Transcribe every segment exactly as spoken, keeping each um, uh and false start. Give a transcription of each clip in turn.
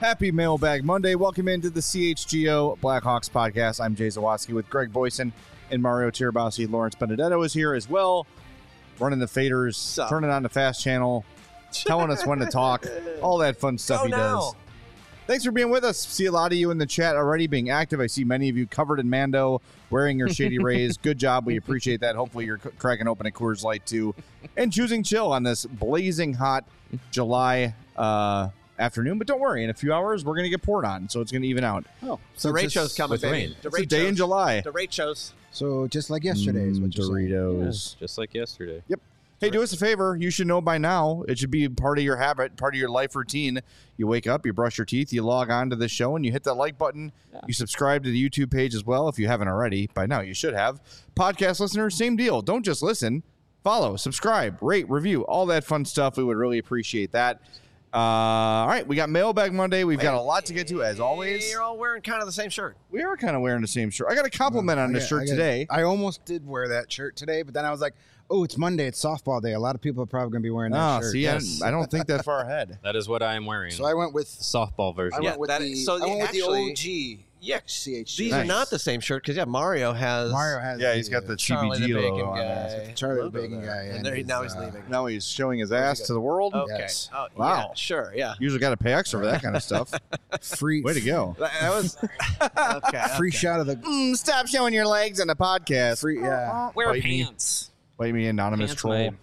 Happy Mailbag Monday. Welcome into the C H G O Blackhawks podcast. I'm Jay Zawaski with Greg Boyson and Mario Tirabassi. Lawrence Benedetto is here as well, running the faders, Sup? turning on the fast channel, telling us when to talk, all that fun stuff Go he now. does. Thanks for being with us. See a lot of you in the chat already being active. I see many of you covered in Mando, wearing your Shady Rays. Good job. We appreciate that. Hopefully you're c- cracking open a Coors Light too and choosing chill on this blazing hot July uh, afternoon. But don't worry, in a few hours, we're going to get poured on, so it's going to even out. Oh, so the Rachel's coming, with baby. rain. The It's a day in July. The Rachel's. So just like yesterday is what you're saying. Doritos. Yeah, just like yesterday. Yep. Hey, do us a favor. You should know by now. It should be part of your habit, part of your life routine. You wake up, you brush your teeth, you log on to the show, and you hit that like button. Yeah. You subscribe to the YouTube page as well if you haven't already. By now, you should have. Podcast listeners, same deal. Don't just listen. Follow, subscribe, rate, review, all that fun stuff. We would really appreciate that. Uh, all right, we got Mailbag Monday. We've got a lot to get to, as always. You're all wearing kind of the same shirt. We are kind of wearing the same shirt. I got a compliment on I this got- shirt I got- today. I almost did wear that shirt today, but then I was like, oh, it's Monday. It's softball day. A lot of people are probably going to be wearing that Oh, shirt. see, yes. I, I don't think that far ahead. That is what I am wearing. So I went with Softball version. I Yeah, went with that the, is- so I went with actually- the O G Yeah. C H G. These Nice. are not the same shirt because, yeah, Mario has Mario has Yeah, he's got the Charlie the C B G Bacon logo on guy. there. Charlie the logo Bacon there. guy, And, and there, his, now he's uh, leaving. Now he's showing his ass to the world. Okay. Yes. Oh, Wow. yeah, sure, yeah. Usually got to pay extra for that kind of stuff. free Way to go. That that was okay. free okay. shot of the Mm, stop showing your legs on the podcast. free. Yeah, Wear Bite me. pants. Wait me, anonymous Pants, troll. babe.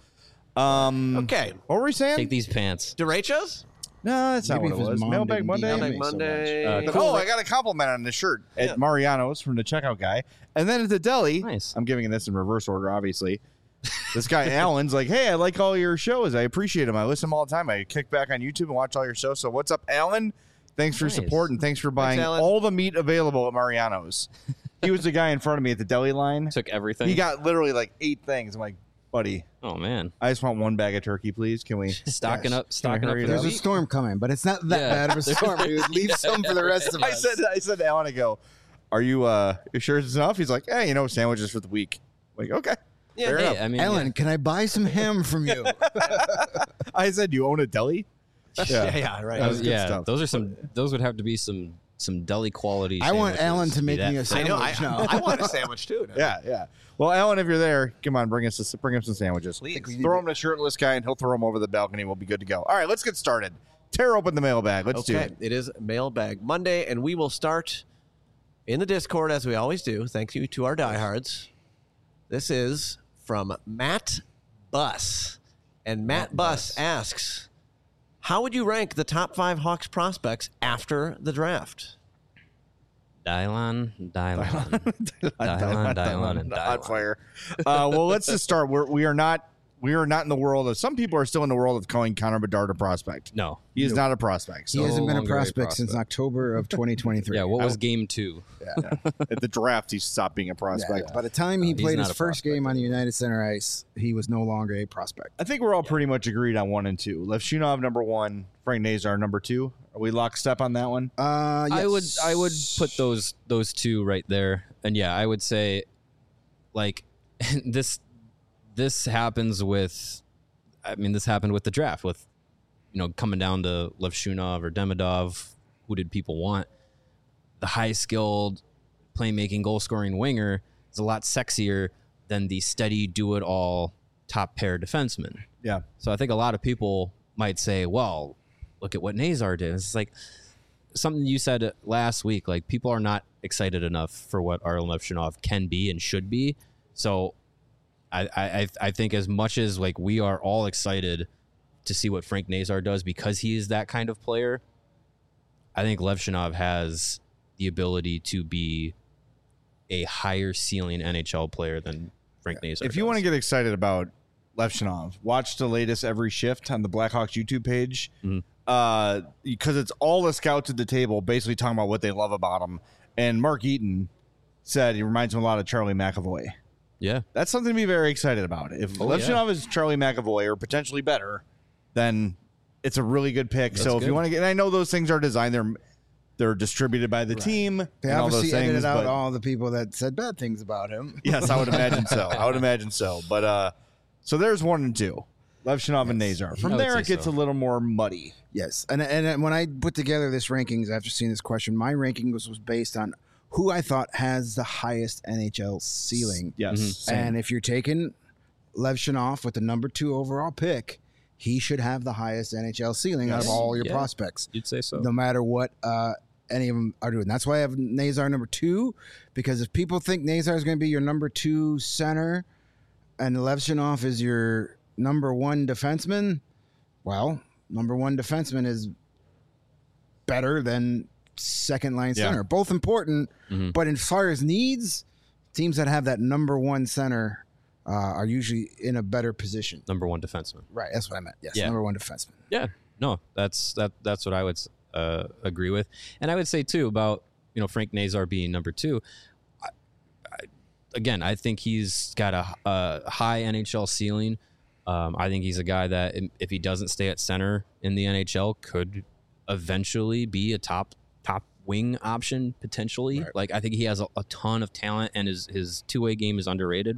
Um, Okay. What were we saying? Take these pants. Derechos? No, that's not Maybe what if it his was. mom Mailbag didn't Monday. D M me Mailbag so much. Monday. Uh, But, cool. oh, I got a compliment on this shirt Yeah. at Mariano's from the checkout guy. And then at the deli, Nice. I'm giving this in reverse order, obviously. This guy, Alan's like, hey, I like all your shows. I appreciate them. I listen to them all the time. I kick back on YouTube and watch all your shows. So what's up, Alan? Thanks for your Nice. support and thanks for buying Alan. all the meat available at Mariano's. He was the guy in front of me at the deli line. Took everything. He got literally like eight things. I'm like, buddy, Oh man, I just want one bag of turkey, please. Can we? stocking Yes. up, stocking up hurry for it the up? there's a week. storm coming, but it's not that Yeah. bad of a storm. Dude. Leave some for the rest of I us. said, I said to Alan, I go, are you, uh, you sure it's enough? He's like, hey, you know, sandwiches for the week. I'm like, okay. Yeah, Fair Hey, enough. I mean, Ellen, yeah. can I buy some ham from you? I said, you own a deli? Yeah, yeah, right. That was good yeah, stuff. those are some. Those would have to be some some deli quality. I want sandwiches Alan to be make that me a I sandwich. know. I, now. I want a sandwich too. now. Yeah, yeah. Well, Alan, if you're there, come on, bring us bring him some sandwiches. Please. Throw him to a shirtless guy, and he'll throw him over the balcony. We'll be good to go. All right, let's get started. Tear open the mailbag. Let's do Okay, it. it is Mailbag Monday, and we will start in the Discord as we always do. Thank you to our diehards. This is from Matt Buss, and Matt, Buss asks, "How would you rank the top five Hawks prospects after the draft?" Dylon, Dylon, Dylon, Dylon, and Hot Dylon. fire. Uh, well, let's just start. We're we are not we are not in the world of. Some people are still in the world of calling Connor Bedard a prospect. No. He is not a prospect. He So hasn't been a longer a prospect since prospect. October of twenty twenty-three. Yeah. What was game two? at the draft, he stopped being a prospect. By the time he he's played not his a first prospect game on the United Center ice, he was no longer a prospect. I think we're all pretty much agreed on one and two. Levshunov number one, Frank Nazar number two. Are we lockstep on that one? Uh, I would yes. I would put those those two right there. And yeah, I would say like this this happens with I mean this happened with the draft with you know coming down to Levshunov or Demidov. Who did people want? The high skilled playmaking goal scoring winger is a lot sexier than the steady do it all top pair defenseman. Yeah. So I think a lot of people might say, well, look at what Nazar did. It's like something you said last week. Like people are not excited enough for what Arlen Levshunov can be and should be. So I, I, I think as much as like we are all excited to see what Frank Nazar does because he is that kind of player, I think Levshunov has the ability to be a higher ceiling N H L player than Frank Nazar. If you want to get excited about Levshunov, watch the latest Every Shift on the Blackhawks YouTube page. Mhm. Uh, because it's all the scouts at the table basically talking about what they love about him. And Mark Eaton said he reminds him a lot of Charlie McAvoy. yeah, That's something to be very excited about. If Oh, Levshunov is Charlie McAvoy or potentially better, then it's a really good pick. That's so if good. you want to get, and I know those things are designed, they're they're distributed by the team. They and all those obviously things, edited out but- all the people that said bad things about him. Yes, I would imagine so. I would imagine so. But uh, so there's one and two. Levshinov and Nazar. From I would there, say it gets so. a little more muddy. Yes, and and when I put together this rankings after seeing this question, my ranking was, was based on who I thought has the highest N H L ceiling. Yes. Mhm. Same. And if you're taking Levshinov with the number two overall pick, he should have the highest N H L ceiling out of Yes. all your Yeah. prospects, You'd say so. no matter what uh, any of them are doing. That's why I have Nazar number two, because if people think Nazar is going to be your number two center and Levshinov is your number one defenseman, well, number one defenseman is better than second line Yeah. center. Both important, Mhm. but as far as needs, teams that have that number one center uh, are usually in a better position. Number one defenseman. Right, that's what I meant. Yes, Yeah. number one defenseman. Yeah, no, that's that. That's what I would uh, agree with, and I would say too about you know Frank Nazar being number two. I, I, again, I think he's got a, a high N H L ceiling. Um, I think he's a guy that, if he doesn't stay at center in the N H L, could eventually be a top top wing option potentially. Right. Like I think he has a, a ton of talent, and his his two way game is underrated.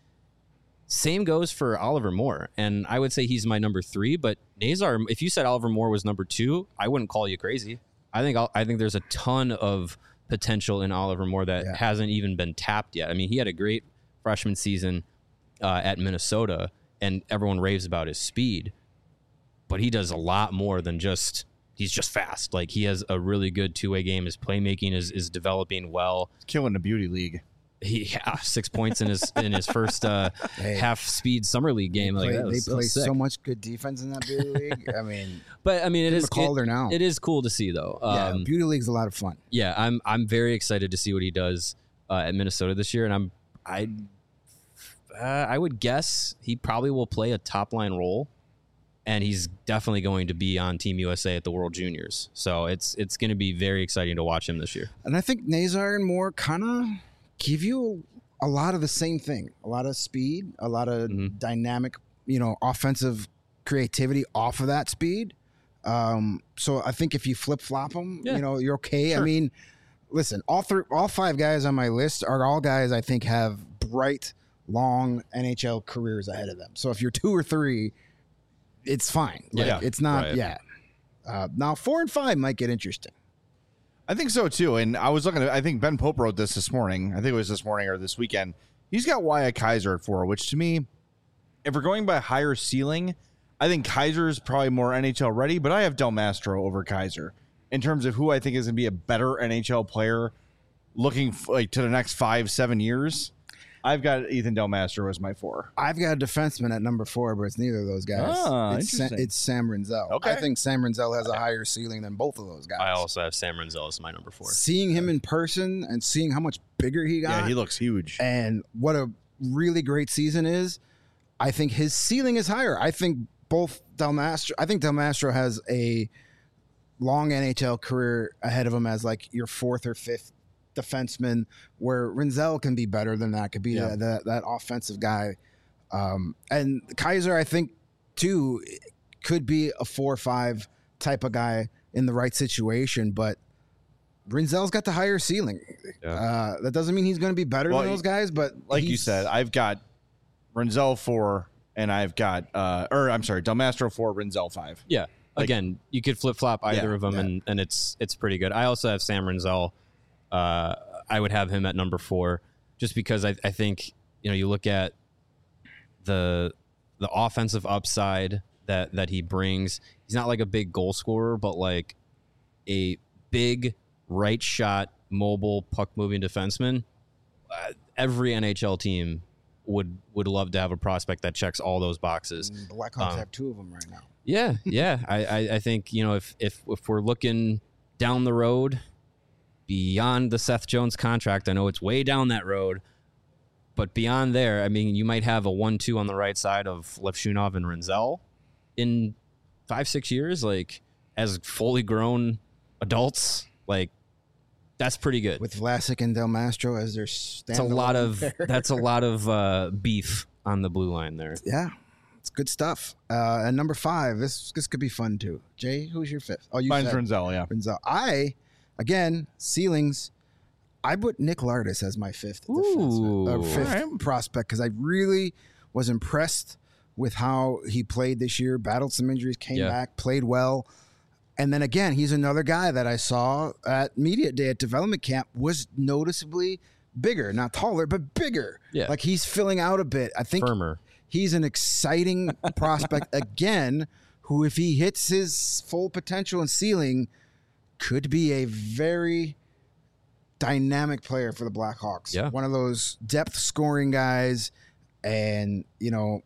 Same goes for Oliver Moore, and I would say he's my number three. But Nazar, if you said Oliver Moore was number two, I wouldn't call you crazy. I think I'll, I think there's a ton of potential in Oliver Moore that Yeah. hasn't even been tapped yet. I mean, he had a great freshman season uh, at Minnesota, and everyone raves about his speed, but he does a lot more than just. He's just fast. Like he has a really good two way game. His playmaking is is developing well. Killing the beauty league. He yeah, six points in his in his first uh, Hey. half speed summer league game. Like Play- that they was, that play was sick. so much good defense in that Beauty League. I mean, But I mean, it give is him a Calder it, now. it is cool to see though. yeah, Um, Beauty League's a lot of fun. yeah, I'm I'm very excited to see what he does uh, at Minnesota this year, and I'm I uh, I would guess he probably will play a top line role, and he's definitely going to be on Team U S A at the World Juniors. So it's it's going to be very exciting to watch him this year. And I think Nazar and Moore kind of give you a lot of the same thing. A lot of speed, a lot of Mhm. dynamic, you know, offensive creativity off of that speed. Um, so I think if you flip flop them, Yeah. you know, you're okay. I Sure. mean, listen, all three, all five guys on my list are all guys I think have bright, long N H L careers ahead of them. So if you're two or three, it's fine. Like, Yeah. it's not. Right. Yeah. Uh, now four and five might get interesting. I think so too. And I was looking at, I think Ben Pope wrote this this morning. I think it was this morning or this weekend. He's got Wyatt Kaiser at four, which to me, if we're going by higher ceiling, I think Kaiser is probably more N H L ready, but I have Del Mastro over Kaiser in terms of who I think is going to be a better N H L player looking f- like to the next five, seven years. I've got Ethan Del Mastro as my four. I've got a defenseman at number four, but it's neither of those guys. Ah, it's, Sa- interesting. it's Sam Renzel. Okay. I think Sam Renzel has a higher ceiling than both of those guys. I also have Sam Renzel as my number four. Seeing him in person and seeing how much bigger he got, Yeah, he looks huge. and what a really great season is, I think his ceiling is higher. I think both Del Mastro, I think Del Mastro has a long N H L career ahead of him as like your fourth or fifth defenseman, where Renzel can be better than that, could be Yeah. that, that that offensive guy. Um, and Kaiser, I think, too, could be a four or five type of guy in the right situation, but Renzel's got the higher ceiling. Yeah. Uh, that doesn't mean he's going to be better Well, than those guys, but Like you he's- said, I've got Renzel four, and I've got, uh, or I'm sorry, Del Mastro four, Renzel five. Yeah. Like- Again, you could flip flop either Yeah, of them, yeah. and, and it's it's pretty good. I also have Sam Renzel. Uh, I would have him at number four, just because I, I think you know you look at the the offensive upside that that he brings. He's not like a big goal scorer, but like a big right shot, mobile puck moving defenseman. Uh, every N H L team would would love to have a prospect that checks all those boxes. And Blackhawks Um, have two of them right now. Yeah, yeah. I, I, I think, you know, if, if if we're looking down the road beyond the Seth Jones contract, I know it's way down that road, but beyond there, I mean, you might have a one two on the right side of Levshunov and Renzel in five, six years, like as fully grown adults. Like, that's pretty good. With Vlasic and Del Mastro as their That's a lot of that's a lot of uh, beef on the blue line there. yeah, it's good stuff. Uh, and number five, this this could be fun too. Jay, who's your fifth? Oh, you Mine's said Renzel, yeah. Renzel. I again ceilings. I put Nick Lardis as my fifth defenseman, Ooh. or fifth All right. prospect because I really was impressed with how he played this year, battled some injuries, came Yeah. back, played well. And then again, he's another guy that I saw at media day at development camp was noticeably bigger, not taller, but bigger. Yeah. Like he's filling out a bit. I think Firmer. he's an exciting prospect again, who, if he hits his full potential and ceiling, could be a very dynamic player for the Blackhawks. Yeah. One of those depth scoring guys and, you know,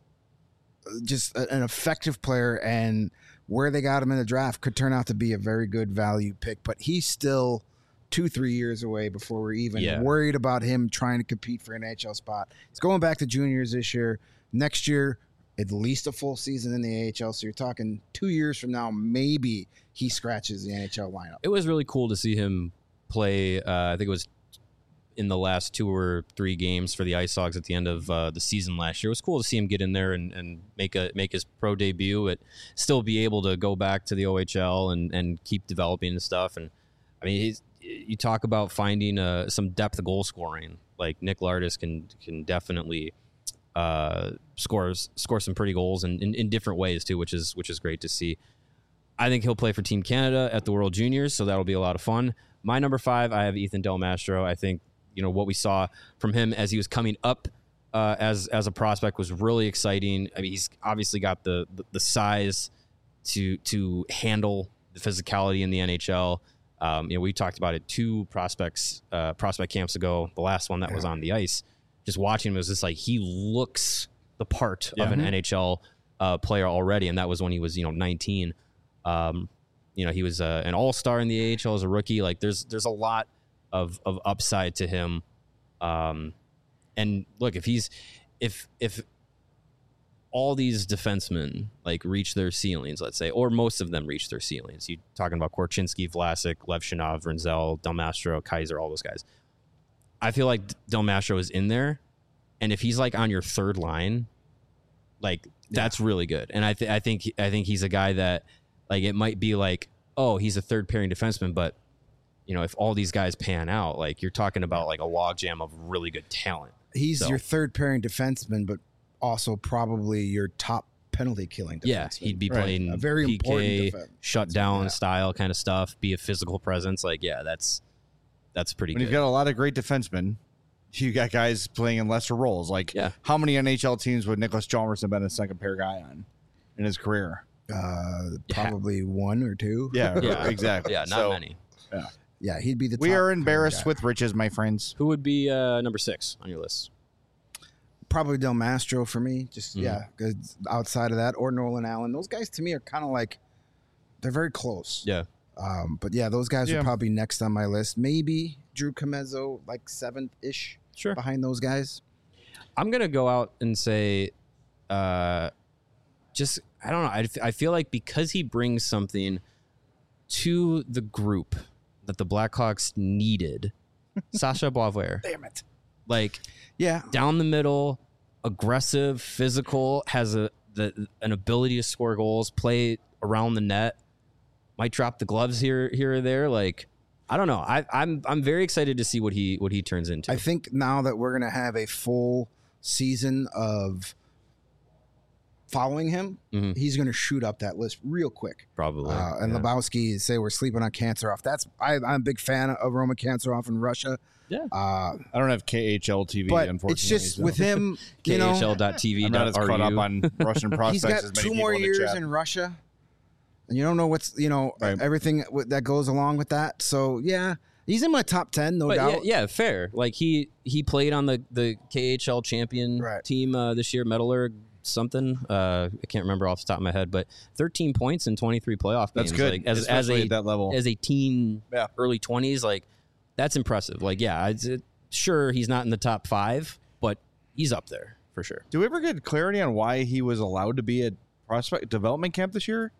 just a- an effective player, and where they got him in the draft could turn out to be a very good value pick. But he's still two, three years away before we're even Yeah. worried about him trying to compete for an N H L spot. He's going back to juniors this year. Next year, at least a full season in the A H L. So you're talking two years from now, maybe he scratches the N H L lineup. It was really cool to see him play. Uh, I think it was in the last two or three games for the Ice Hogs at the end of uh, the season last year. It was cool to see him get in there and, and make a make his pro debut, but still be able to go back to the O H L and, and keep developing and stuff. And I mean, he's, you talk about finding uh, some depth of goal scoring. Like Nick Lardis can can definitely uh, score score some pretty goals and in, in different ways too, which is which is great to see. I think he'll play for Team Canada at the World Juniors, so that'll be a lot of fun. My number five, I have Ethan Del Mastro. I think, you know, what we saw from him as he was coming up uh, as as a prospect was really exciting. I mean, he's obviously got the the, the size to to handle the physicality in the N H L. Um, you know, we talked about it two prospects uh, prospect camps ago. The last one that was on the ice. Just watching him, it was just like he looks the part Yeah. of an Mhm. N H L uh, player already, and that was when he was, you know, nineteen. Um, you know, he was uh, an all-star in the A H L as a rookie. Like there's, there's a lot of, of upside to him. Um, and look, if he's, if, if all these defensemen like reach their ceilings, let's say, or most of them reach their ceilings, you talking about Korchinski, Vlasic, Levshinov, Renzel, Del Mastro, Kaiser, all those guys. I feel like Del Mastro is in there. And if he's like on your third line, like that's really good. And I, th- I think, I think he's a guy that, like, it might be like, oh, he's a third pairing defenseman, but you know, if all these guys pan out, like you're talking about like a logjam of really good talent. He's So- your third pairing defenseman, but also probably your top penalty killing defenseman. Yeah, he'd be Right. playing A very P important K, defense. shut down Yeah. style kind of stuff, be a physical presence. Like, yeah, that's that's pretty When good. you've got a lot of great defensemen, you got guys playing in lesser roles. Like, Yeah. how many N H L teams would Nicholas Chalmers have been a second pair guy on in his career? Uh, Yeah. probably one or two. Yeah, Yeah. exactly. yeah, not So, many. Yeah, he'd be the We top are pairing embarrassed guy. with riches, my friends. Who would be uh, number six on your list? Probably Del Mastro for me. Just, Mhm. yeah, 'cause outside of that, or Nolan Allen. Those guys to me are kind of like, they're very close. Yeah, Um, but yeah, those guys Yeah. are probably next on my list. Maybe Drew Comezzo, like seventh ish sure. behind those guys. I'm gonna go out and say, uh, just I don't know. I, I feel like because he brings something to the group that the Blackhawks needed, Sasha Boisvert, Damn it. like Yeah, down the middle, aggressive, physical, has a the an ability to score goals, play around the net, might drop the gloves here here or there. Like I don't know. I, I'm I'm very excited to see what he what he turns into. I think now that we're gonna have a full season of following him, Mhm. he's gonna shoot up that list real quick. Probably. Uh, and yeah. Lebowski say we're sleeping on Kanserov. That's I, I'm a big fan of Roman Kanserov in Russia. Yeah. Uh, I don't have K H L T V, but unfortunately. it's just so with him, you know, K H L dot T V I'm not as dot R U. caught up on Russian prospects he's as got many two people more in the years chat. in Russia, and you don't know what's you know Right. everything w- that goes along with that. So yeah, he's in my top ten, no But yeah, doubt. yeah, fair. Like he he played on the the K H L champion Right. team uh, this year, Metallurg something. Uh, I can't remember off the top of my head, but thirteen points in twenty-three playoff games. That's good, Like, as as especially a at that level. as a teen, Yeah. early twenties, like that's impressive. Like yeah, it's, it, sure he's not in the top five, but he's up there for sure. Do we ever get clarity on why he was allowed to be at prospect development camp this year?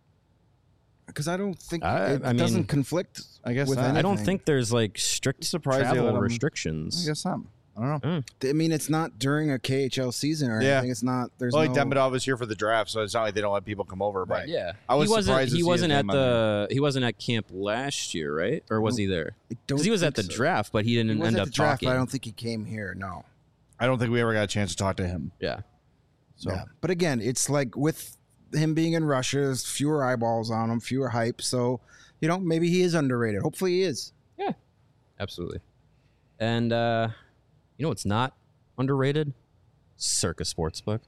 Because I don't think I- it I mean, doesn't conflict. I guess with not. anything. I don't think there's like strict Surprised they let travel him- restrictions. I guess not. I don't know. I mean, it's not during a K H L season or Yeah. anything. It's not. There's Well, like no. Demidov is here for the draft, so it's not like they don't let people come over. But Right. Yeah, I was he wasn't. surprised to He see wasn't his at name on the. He wasn't at camp last year, right? Or was he there? I don't Because he was at the think so. draft, but he He didn't was end at up the draft, talking. but I don't think he came here. No. I don't think we ever got a chance to talk to him. Yeah, So Yeah. But again, it's like with him being in Russia, there's fewer eyeballs on him, fewer hype. So, you know, maybe he is underrated. Hopefully he is. Yeah, absolutely. And uh, you know what's not underrated? Circa Sportsbook.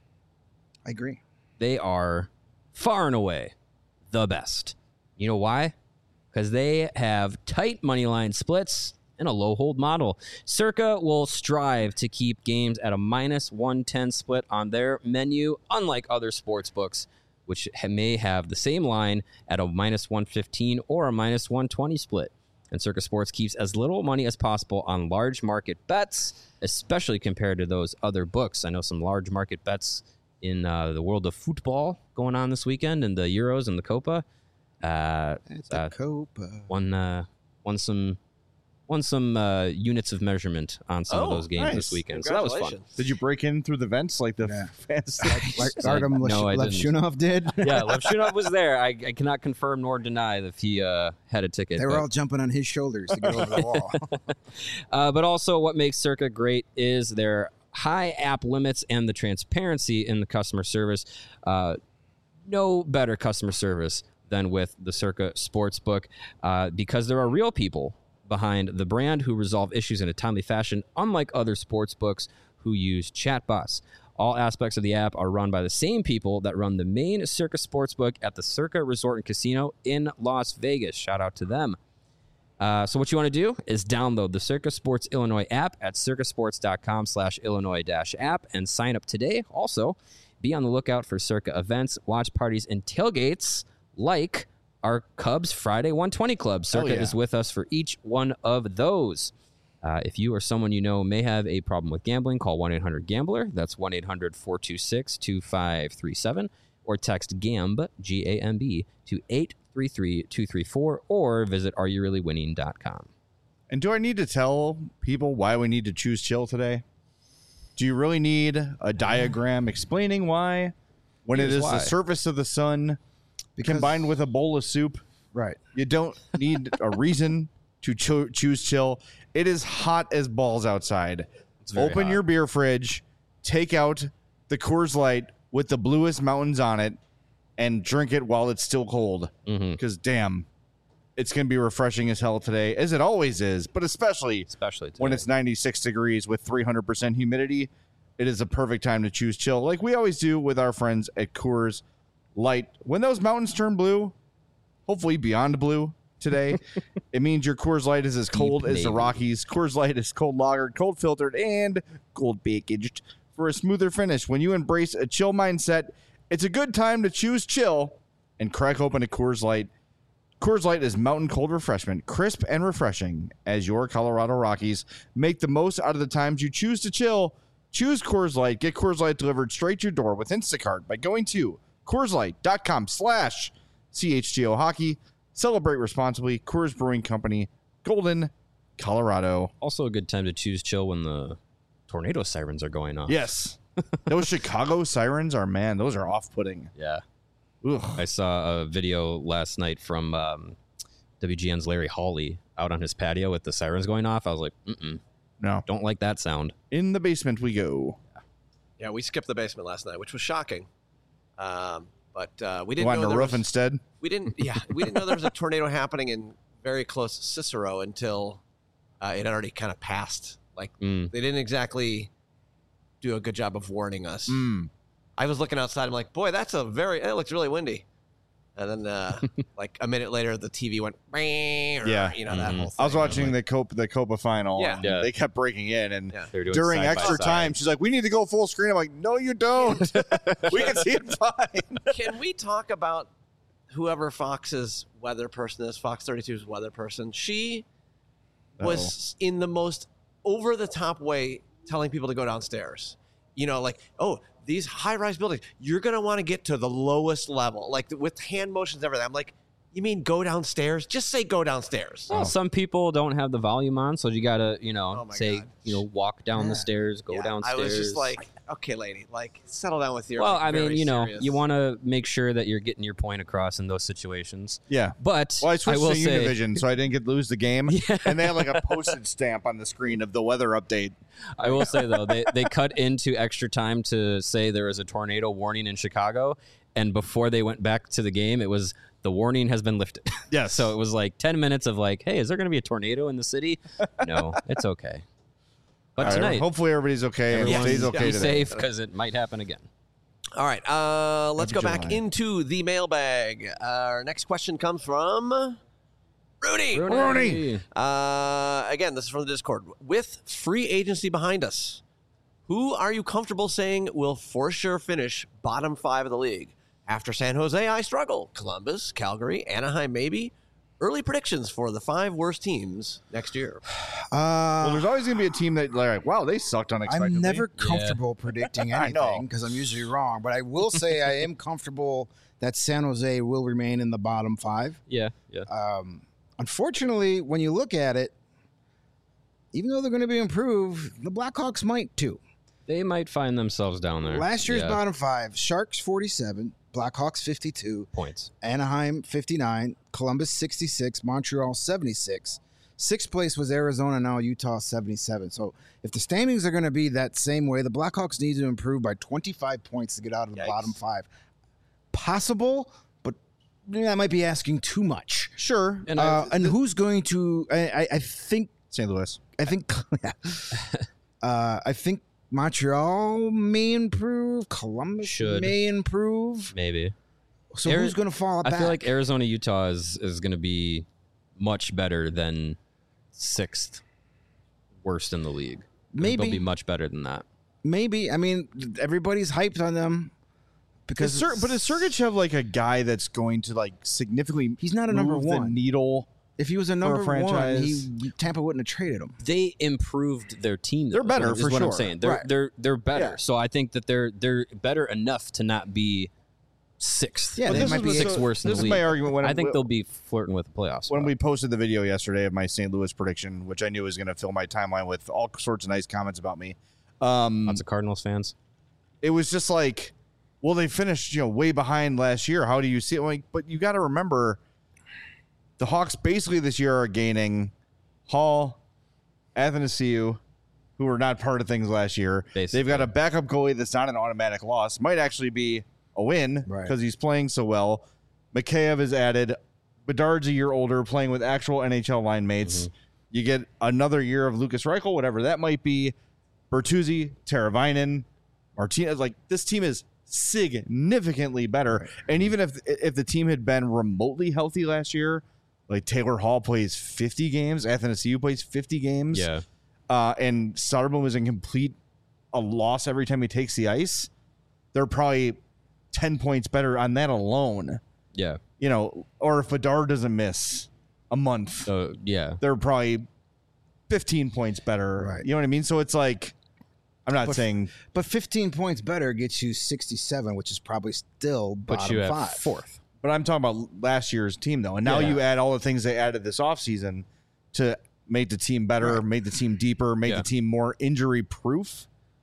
I agree. They are far and away the best. You know why? Because they have tight money line splits and a low hold model. Circa will strive to keep games at a minus one ten split on their menu, unlike other sports books, which ha- may have the same line at a minus one fifteen or a minus one twenty split. And Circa Sports keeps as little money as possible on large market bets, especially compared to those other books. I know some large market bets in uh, the world of football going on this weekend, and the Euros and the Copa. Uh, It's uh, a Copa. won uh, won some won some uh, units of measurement on some of Oh, those games nice. this weekend. So that was fun. Congratulations. did you break in through the vents like the Yeah. fantasy? Like So, Artem no, I didn't. Levshunov did. Yeah, Levshunov was there. I, I cannot confirm nor deny if he uh, had a ticket. They were but- all jumping on his shoulders to get over the wall. Uh, but also, what makes Circa great is their high app limits and the transparency in the customer service. Uh, no better customer service than with the Circa Sportsbook uh, because there are real people behind the brand who resolve issues in a timely fashion, unlike other sports books who use chatbots. All aspects of the app are run by the same people that run the main Circa Sportsbook at the Circa Resort and Casino in Las Vegas. Shout out to them. Uh, so what you want to do is download the Circa Sports Illinois app at circasports.com slash Illinois dash app and sign up today. Also, be on the lookout for Circa events, watch parties, and tailgates like our Cubs Friday one twenty Club. Circa yeah. is with us for each one of those. Uh, if you or someone you know may have a problem with gambling, call one eight hundred gambler. That's one eight hundred four two six two five three seven. Or text GAMB, G A M B, to eight three three two three four or visit are you really winning dot com. And do I need to tell people why we need to choose chill today? Do you really need a diagram explaining why? When it Here's is why. the surface of the sun Because- combined with a bowl of soup, Right. you don't need a reason to cho- choose chill. It is hot as balls outside. very Open hot. your beer fridge, take out the Coors Light with the bluest mountains on it, and drink it while it's still cold. Mm-hmm. Because damn, it's going to be refreshing as hell today, as it always is, but especially Especially today. when it's ninety-six degrees with three hundred percent humidity. It is a perfect time to choose chill, like we always do with our friends at Coors Light. When those mountains turn blue, hopefully beyond blue today, it means your Coors Light is as cold as the navy. Rockies. Coors Light is cold lagered, cold filtered, and cold packaged for a smoother finish. When you embrace a chill mindset, it's a good time to choose chill and crack open a Coors Light. Coors Light is mountain cold refreshment, crisp and refreshing as your Colorado Rockies make the most out of the times you choose to chill. Choose Coors Light. Get Coors Light delivered straight to your door with Instacart by going to CoorsLight.com slash CHGO Hockey. Celebrate responsibly. Coors Brewing Company, Golden, Colorado. also a good time to choose chill when the tornado sirens are going off. Yes. Those Chicago sirens are, man, those are off-putting. Yeah. Ugh. I saw a video last night from um, W G N's Larry Hawley out on his patio with the sirens going off. I was like, mm-mm, No. don't like that sound. In the basement we go. Yeah, we skipped the basement last night, which was shocking. Um, but uh, we We didn't want know a there roof was, instead. we didn't. Yeah, we didn't know there was a tornado happening in very close Cicero until uh, it had already kind of passed. Like Mm. they didn't exactly do a good job of warning us. Mm. I was looking outside. I'm like, boy, that's a very. It looks really windy. And then, uh, like a minute later, the T V went. Yeah, Yeah. you know that Mhm. whole thing. I was watching like, the Copa, the Copa final. Yeah. and Yeah. They kept breaking in, and Yeah. They were doing during side by extra side. time, she's like, "We need to go full screen." I'm like, "No, you don't. We can see it fine." Can we talk about whoever Fox's weather person is? Fox thirty-two's weather person. She was in the most over the top way telling people to go downstairs. You know, like, oh, these high rise buildings, you're going to want to get to the lowest level, like with hand motions and everything. I'm like, You mean go downstairs? Just say go downstairs. Well, some people don't have the volume on, so you gotta, you know, Oh my say, God. you know, walk down Yeah. the stairs, go Yeah, downstairs. I was just like, okay, lady, like settle down with your. well, like, I mean, very you know, serious- you want to make sure that you're getting your point across in those situations. Yeah. But Well, I switched will to say, Univision, so I didn't get to lose the game. And they had like a postage stamp on the screen of the weather update. I will say though, they they cut into extra time to say there was a tornado warning in Chicago, and before they went back to the game, it was the warning has been lifted. Yes. So it was like ten minutes of like, hey, is there going to be a tornado in the city? No, it's okay. But All right, tonight, hopefully everybody's okay and everyone stays okay be today. safe because it might happen again. All right, uh, let's Happy go back July. into the mailbag. Our next question comes from Rudy. Rooney. Uh, again, this is from the Discord. With free agency behind us, who are you comfortable saying will for sure finish bottom five of the league? After San Jose, I struggle. Columbus, Calgary, Anaheim, maybe. Early predictions for the five worst teams next year. Uh, Well, there's always going to be a team that, like, wow, they sucked unexpectedly. I'm never comfortable predicting I know. anything because I'm usually wrong. But I will say I am comfortable that San Jose will remain in the bottom five. Yeah, yeah. Um, unfortunately, when you look at it, even though they're going to be improved, the Blackhawks might too. They might find themselves down there. Last year's Yeah. bottom five: Sharks forty-seven, Blackhawks fifty-two, points. Anaheim fifty-nine, Columbus sixty-six, Montreal seventy-six. Sixth place was Arizona, now Utah seventy-seven. So if the standings are going to be that same way, the Blackhawks need to improve by twenty-five points to get out of the Yikes. bottom five. Possible, but yeah, I might be asking too much. Sure. And Uh, I, and who's going to? I, I, I think. Saint Louis. I think. Yeah. uh, I think Montreal may improve. Columbus Should. may improve. maybe. So Ari- who's going to fall I back? feel like Arizona, Utah is, is going to be much better than sixth worst in the league. Maybe. They'll be much better than that. Maybe. I mean, everybody's hyped on them because Does Ser- but does Sergachev have like a guy that's going to like significantly he's not a number move the one. needle? If he was a a number one, franchise. he Tampa wouldn't have traded him. They improved their team. They're though, better, is for what I'm sure. saying. They're Right. they're they're better. Yeah. So I think that they're they're better enough to not be sixth. Yeah, But they this might is be what- sixth so worst in This the is league. my argument. When I think when- they'll be flirting with the playoffs. when we posted the video yesterday of my Saint Louis prediction, which I knew was going to fill my timeline with all sorts of nice comments about me. Um, lots of Cardinals fans. it was just like, well, they finished, you know, way behind last year. How do you see it? Like, but you got to remember, the Hawks basically this year are gaining Hall, Athanasiou, who were not part of things last year. Basically. They've got a backup goalie that's not an automatic loss. Might actually be a win Right. because he's playing so well. Mikheyev is added. Bedard's a year older, playing with actual N H L line mates. Mm-hmm. You get another year of Lucas Reichel, whatever that might be. Bertuzzi, Teravainen, Martinez. Like, this team is significantly better. And even if if the team had been remotely healthy last year, like Taylor Hall plays fifty games, Athanasiou plays fifty games, Yeah. uh, and Soderblom is in complete a loss every time he takes the ice, they're probably ten points better on that alone. Yeah. You know, or if Bedard doesn't miss a month, So yeah. they're probably fifteen points better. Right. You know what I mean? So it's like, I'm not But- saying But fifteen points better gets you sixty-seven, which is probably still Puts bottom you at five. fourth. But I'm talking about last year's team, though. And now Yeah. you add all the things they added this offseason to make the team better, Right. make the team deeper, make Yeah. the team more injury proof.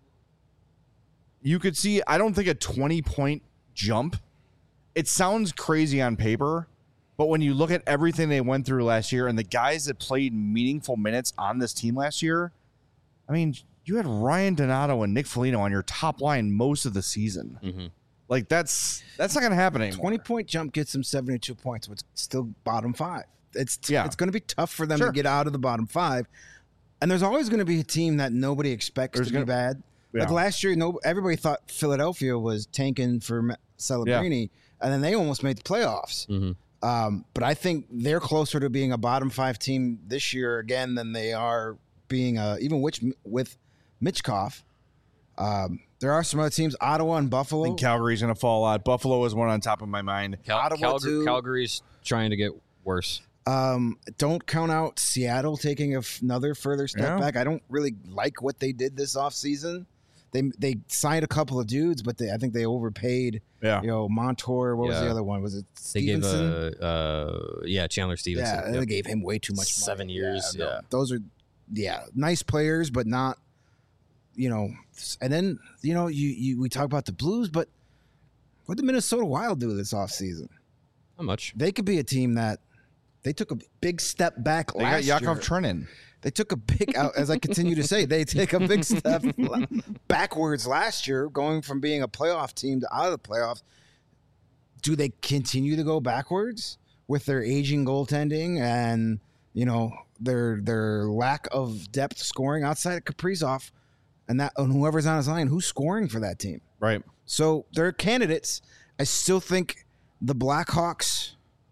You could see, I don't think a twenty point jump, it sounds crazy on paper, but when you look at everything they went through last year and the guys that played meaningful minutes on this team last year, I mean, you had Ryan Donato and Nick Foligno on your top line most of the season. Mhm. Like, that's that's not going to happen anymore. twenty point jump gets them seventy-two points, but it's still bottom five. It's Yeah. it's going to be tough for them Sure. to get out of the bottom five. And there's always going to be a team that nobody expects There's to gonna- be bad. Like Yeah. last year, no everybody thought Philadelphia was tanking for Ma- Celebrini, and then they almost made the playoffs. Mhm. Um, but I think they're closer to being a bottom five team this year again than they are being a, even which with Mitchkov. Um, there are some other teams, Ottawa and I Buffalo. think Calgary's going to fall out. Buffalo is one on top of my mind. Cal- Ottawa, Calgary, too. Calgary's trying to get worse. Um, don't count out Seattle taking a f- another further step Yeah. back. I don't really like what they did this offseason. they they signed a couple of dudes, but they I think they overpaid. Yeah. You know, Montour. What was the Yeah. other one? Was it They gave Stevenson? a uh, yeah Chandler Stevenson. Yeah, Yep. they gave him way too much. Seven money. years, no, yeah. those are yeah nice players, but not you know. And then you know you, you we talk about the Blues, but what did Minnesota Wild do this offseason? Not much. They could be a team that they took a big step back They got last Yakov year. Trenin. They took a big, as I continue to say, they take a big step backwards last year, going from being a playoff team to out of the playoffs. Do they continue to go backwards with their aging goaltending and you know their their lack of depth scoring outside of Kaprizov and that and whoever's on his line? Who's scoring for that team? Right. So they're candidates. I still think the Blackhawks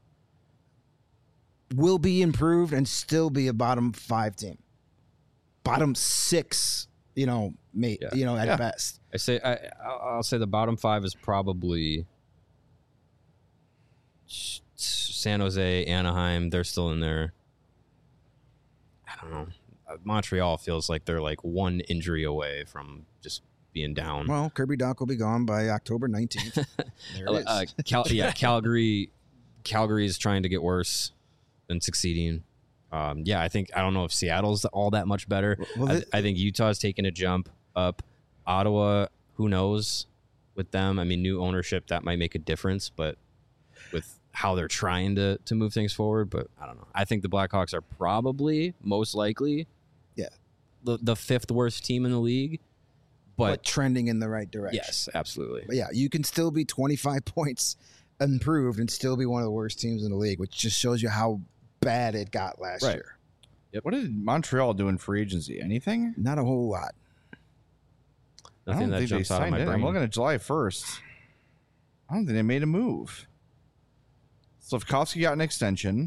will be improved and still be a bottom five team, bottom six. You know, mate. Yeah. You know, at Yeah. best. I say I I'll I'll say the bottom five is probably San Jose, Anaheim. They're still in there. I don't know. Uh, Montreal feels like they're like one injury away from just being down. Well, Kirby Doc will be gone by October nineteenth. There it is. Uh, Cal- yeah, Calgary. Calgary is trying to get worse than succeeding. Um, yeah, I think I don't know if Seattle's all that much better. Well, I, th- I think Utah's taking a jump up. Ottawa, who knows with them? I mean, new ownership that might make a difference, but with how they're trying to to move things forward, but I don't know. I think the Blackhawks are probably most likely, Yeah. the the fifth worst team in the league. but, But, trending in the right direction. yes, absolutely. But yeah, you can still be twenty-five points improved and still be one of the worst teams in the league, which just shows you how bad it got last Right. year. What did Montreal do in free agency? Anything? Not a whole lot. I Nothing don't that think they jumps out of signed my it. brain. I'm looking at July first. I don't think they made a move. Slavkovsky got an extension.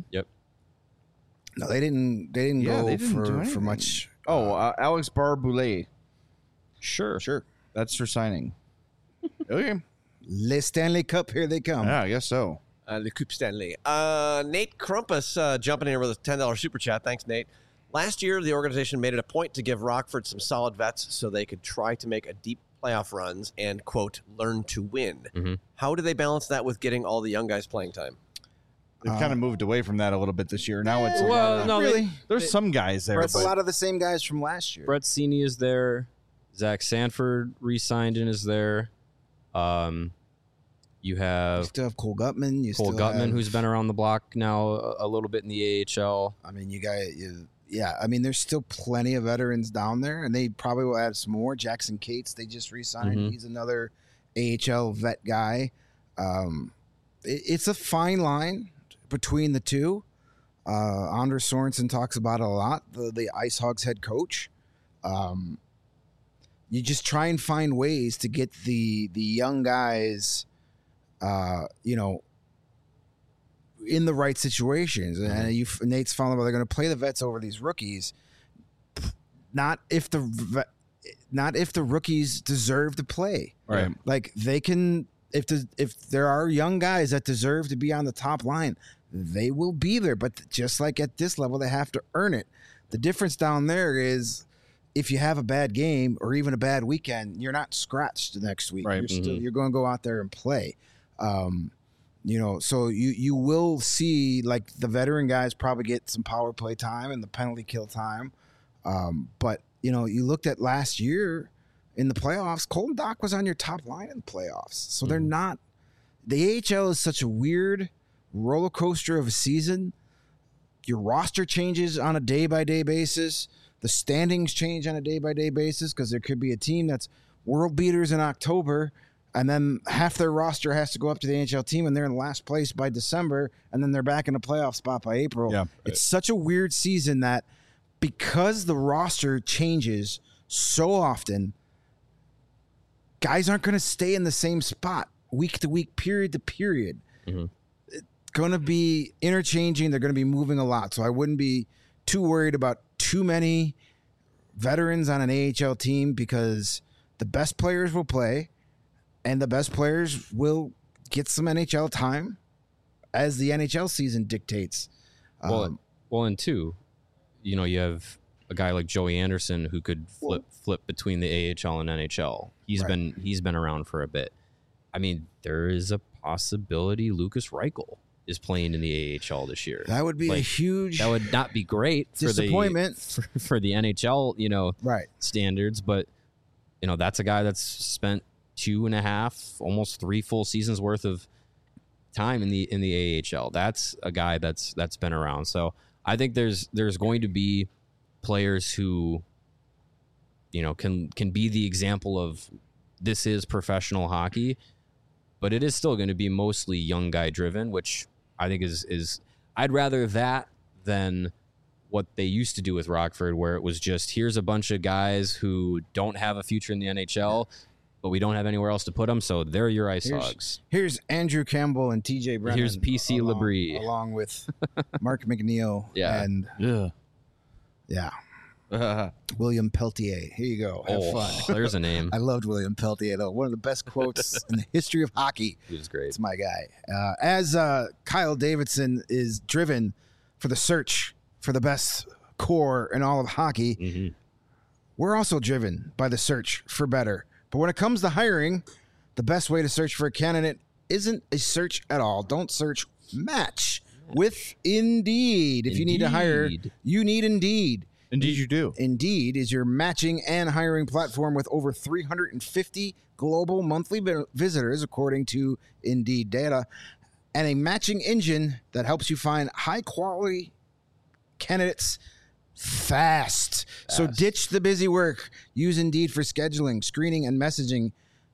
No, they didn't. They didn't Yeah, go they didn't do for, for anything. much. Oh, uh, Alex Barboulay. Sure. Sure. That's for signing. Okay. Le Stanley Cup, here they come. Yeah, I guess so. Uh, the Coupe Stanley. Uh, Nate Crumpus uh, jumping in here with a ten dollars super chat. Thanks, Nate. Last year, the organization made it a point to give Rockford some solid vets so they could try to make a deep playoff runs and, quote, learn to win. Mhm. How do they balance that with getting all the young guys playing time? They've Uh, kind of moved away from that a little bit this year. Now it's a Well, lot of- no, really. they- there's some guys there. It's a but- lot of the same guys from last year. Brett Seney is there. Zach Sanford re-signed and is there. Um, you You have still have Cole Gutman. You Cole still Gutman, have, who's been around the block now a, a little bit in the A H L. I mean, you got you. Yeah, I mean, there's still plenty of veterans down there, and they probably will add some more. Jackson Cates, they just re-signed. Mhm. He's another A H L vet guy. Um, it, it's a fine line between the two. Uh, Anders Sorensen talks about it a lot. The the Ice Hogs head coach. Um, you just try and find ways to get the the young guys, uh, you know, in the right situations. And you, Nate's following about they're going to play the vets over these rookies. Not if the vet, not if the rookies deserve to play. Right. Like they can, if the, if there are young guys that deserve to be on the top line, they will be there. But just like at this level, they have to earn it. The difference down there is if you have a bad game or even a bad weekend, you're not scratched the next week. Right. You're still Mhm. you're going to go out there and play. Um, you know, so you you will see like the veteran guys probably get some power play time and the penalty kill time. Um, but you know, you looked at last year in the playoffs, Colton Dock was on your top line in the playoffs. So they're not. The A H L is such a weird roller coaster of a season. Your roster changes on a day by day basis. The standings change on a day by day basis because there could be a team that's world beaters in October, and then half their roster has to go up to the N H L team, and they're in last place by December, and then they're back in a playoff spot by April. Yeah. It's such a weird season that because the roster changes so often, guys aren't going to stay in the same spot week to week, period to period. Mhm. It's going to be interchanging. They're going to be moving a lot. So I wouldn't be too worried about too many veterans on an A H L team because the best players will play and the best players will get some N H L time as the N H L season dictates. Well, Um, well, and two, you know, you have a guy like Joey Anderson who could flip flip between the A H L and N H L. He's Right. been he's been around for a bit. I mean, there is a possibility Lucas Reichel is playing in the A H L this year. That would be a Like, huge That would not be great for the disappointment. for, for the N H L, you know, Right. standards, but you know, that's a guy that's spent two and a half, almost three full seasons worth of time in the in the A H L. That's a guy that's that's been around. So I think there's there's going to be players who, you know, can can be the example of this is professional hockey, but it is still going to be mostly young guy driven, which I think is is I'd rather that than what they used to do with Rockford, where it was just here's a bunch of guys who don't have a future in the N H L, but we don't have anywhere else to put them, so they're your ice Here's- hogs. Here's Andrew Campbell and T J Brennan. Here's P C along, Labrie. along with Mark McNeil Yeah. and Yeah. yeah, William Peltier. Here you go. Have Oh, fun. there's a name. I loved William Peltier though. One of the best quotes in the history of hockey. He was great. It's my guy. Uh, as uh, Kyle Davidson is driven for the search for the best core in all of hockey, Mhm. we're also driven by the search for better. But when it comes to hiring, the best way to search for a candidate isn't a search at all. Don't search, match with Indeed. If you need to hire, Indeed. you need Indeed. Indeed, you do. Indeed is your matching and hiring platform with over three hundred fifty global monthly vi- visitors, according to Indeed data, and a matching engine that helps you find high quality candidates fast. So ditch the busy work. Use Indeed for scheduling, screening, and messaging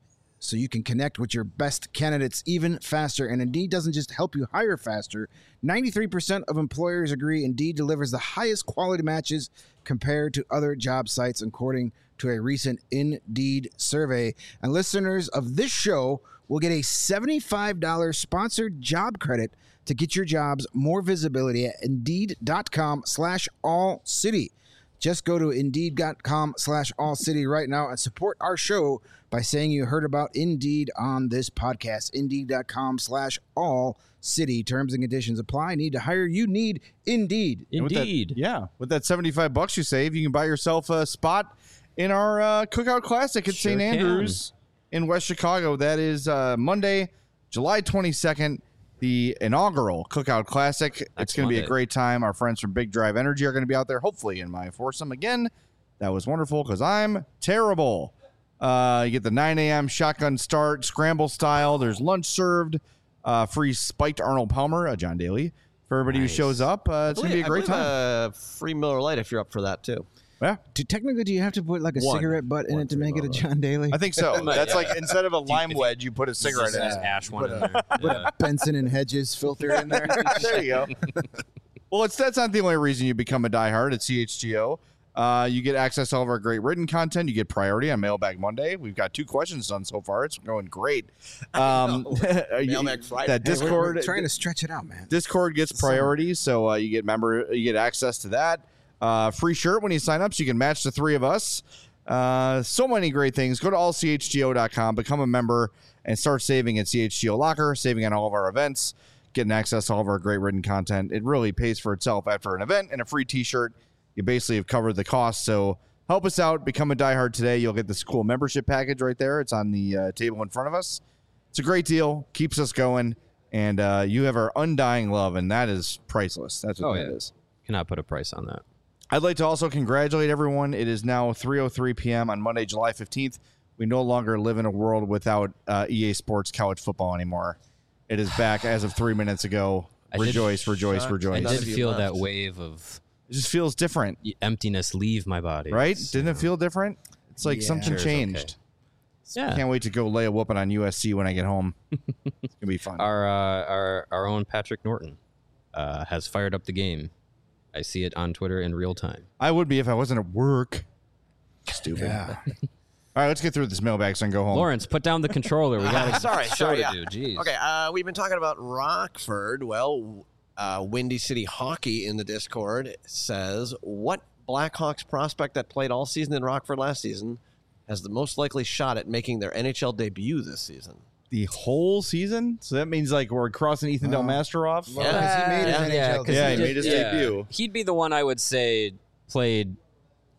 so you can connect with your best candidates even faster. And Indeed doesn't just help you hire faster. ninety-three percent of employers agree Indeed delivers the highest quality matches compared to other job sites, according to a recent Indeed survey. And listeners of this show will get a seventy-five dollars sponsored job credit to get your jobs more visibility at Indeed.com slash all city. Just go to Indeed.com slash all city right now and support our show by saying you heard about Indeed on this podcast. Indeed.com slash all city. Terms and conditions apply. Need to hire? You need Indeed. And with that- Indeed. yeah. With that seventy-five bucks you save, you can buy yourself a spot in our uh, Cookout Classic at Sure Saint can. Andrews in West Chicago. That is uh, Monday, July twenty-second, the inaugural Cookout Classic. It's Next going to be a Monday. great time. Our friends from Big Drive Energy are going to be out there, hopefully, in my foursome again. That was wonderful because I'm terrible. Uh, you get the nine a.m. shotgun start, scramble style. There's lunch served. Uh, free spiked Arnold Palmer, uh, John Daly, for everybody Nice. who shows up. Uh, it's going to be a I great believe, time. Uh, free Miller Lite if you're up for that too. Yeah, Do, technically, do you have to put like a One. cigarette butt in One it to for make it a Lola. John Daly? I think so. That's Yeah. like instead of a lime if you- wedge, you put a cigarette in Just it. ash one in there. Yeah. Benson and Hedges filter in there. There you go. Well, it's that's not the only reason you become a diehard at C H G O. Uh, you get access to all of our great written content. You get priority on Mailbag Monday. We've got two questions done so far. It's going great. Um, you- Mailbag Friday. That Hey, we're- Discord we're trying to stretch it out, man. Discord gets priority, so uh, you get member, you get access to that. Uh, free shirt when you sign up, so you can match the three of us. Uh, so many great things. Go to all c h g o dot com, become a member, and start saving at C H G O Locker, saving on all of our events, getting access to all of our great written content. It really pays for itself after an event and a free T-shirt. You basically have covered the cost. So help us out. Become a diehard today. You'll get this cool membership package right there. It's on the uh, table in front of us. It's a great deal. Keeps us going. And uh, you have our undying love, and that is priceless. That's what Oh, that yeah. is. Cannot put a price on that. I'd like to also congratulate everyone. It is now three oh three p.m. on Monday, July fifteenth. We no longer live in a world without uh, E A Sports college football anymore. It is back as of three minutes ago. I did- Rejoice, rejoice, Shut- I rejoice. None did of you feel left. that wave of It just feels different, emptiness leave my body. right? It's, Didn't uh, it feel different? It's like Yeah. something Sure is okay. changed. Yeah. Can't wait to go lay a whooping on U S C when I get home. It's gonna be fun. Our uh, our our own Patrick Norton uh, has fired up the game. I see it on Twitter in real time. I would be if I wasn't at work. Stupid. Yeah. All right, let's get through this mailbag so I can go home. Lawrence, put down the controller. We got a sorry, show sorry, to yeah. do. Jeez. Okay, uh, we've been talking about Rockford. Well, uh, Windy City Hockey in the Discord says, what Blackhawks prospect that played all season in Rockford last season has the most likely shot at making their N H L debut this season? The whole season? So that means like we're crossing Ethan Del Master off? Well, 'cause he made his Yeah, N H L yeah, 'cause Yeah, he debut. made his yeah. debut. He'd be the one I would say played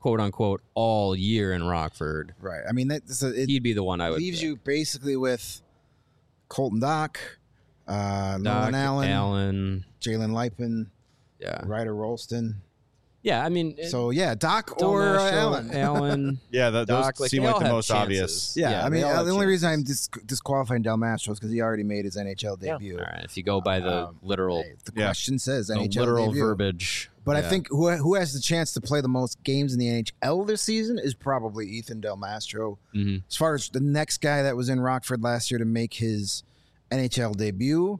quote unquote all year in Rockford, Right. I mean, that, so it he'd be the one I would leaves pick. you basically with Colton Dock, uh, Doc, Nolan Allen, Allen, Jalen Lipin, yeah, Ryder Rolston. yeah. I mean, it- So yeah, Doc Del or uh, Mastro, Allen. Allen, Yeah, the, those Doc, like, seem they like all the have most chances. obvious. Yeah, Yeah, I mean, they all uh, have the only reason I'm chances. dis- disqualifying Del Mastro is because he already made his N H L debut. All right, if you go by the Um, literal, Hey, the Yeah. question says the N H L literal debut. verbiage, But I yeah. think who who has the chance to play the most games in the N H L this season is probably Ethan Del Mastro. Mhm. As far as the next guy that was in Rockford last year to make his N H L debut,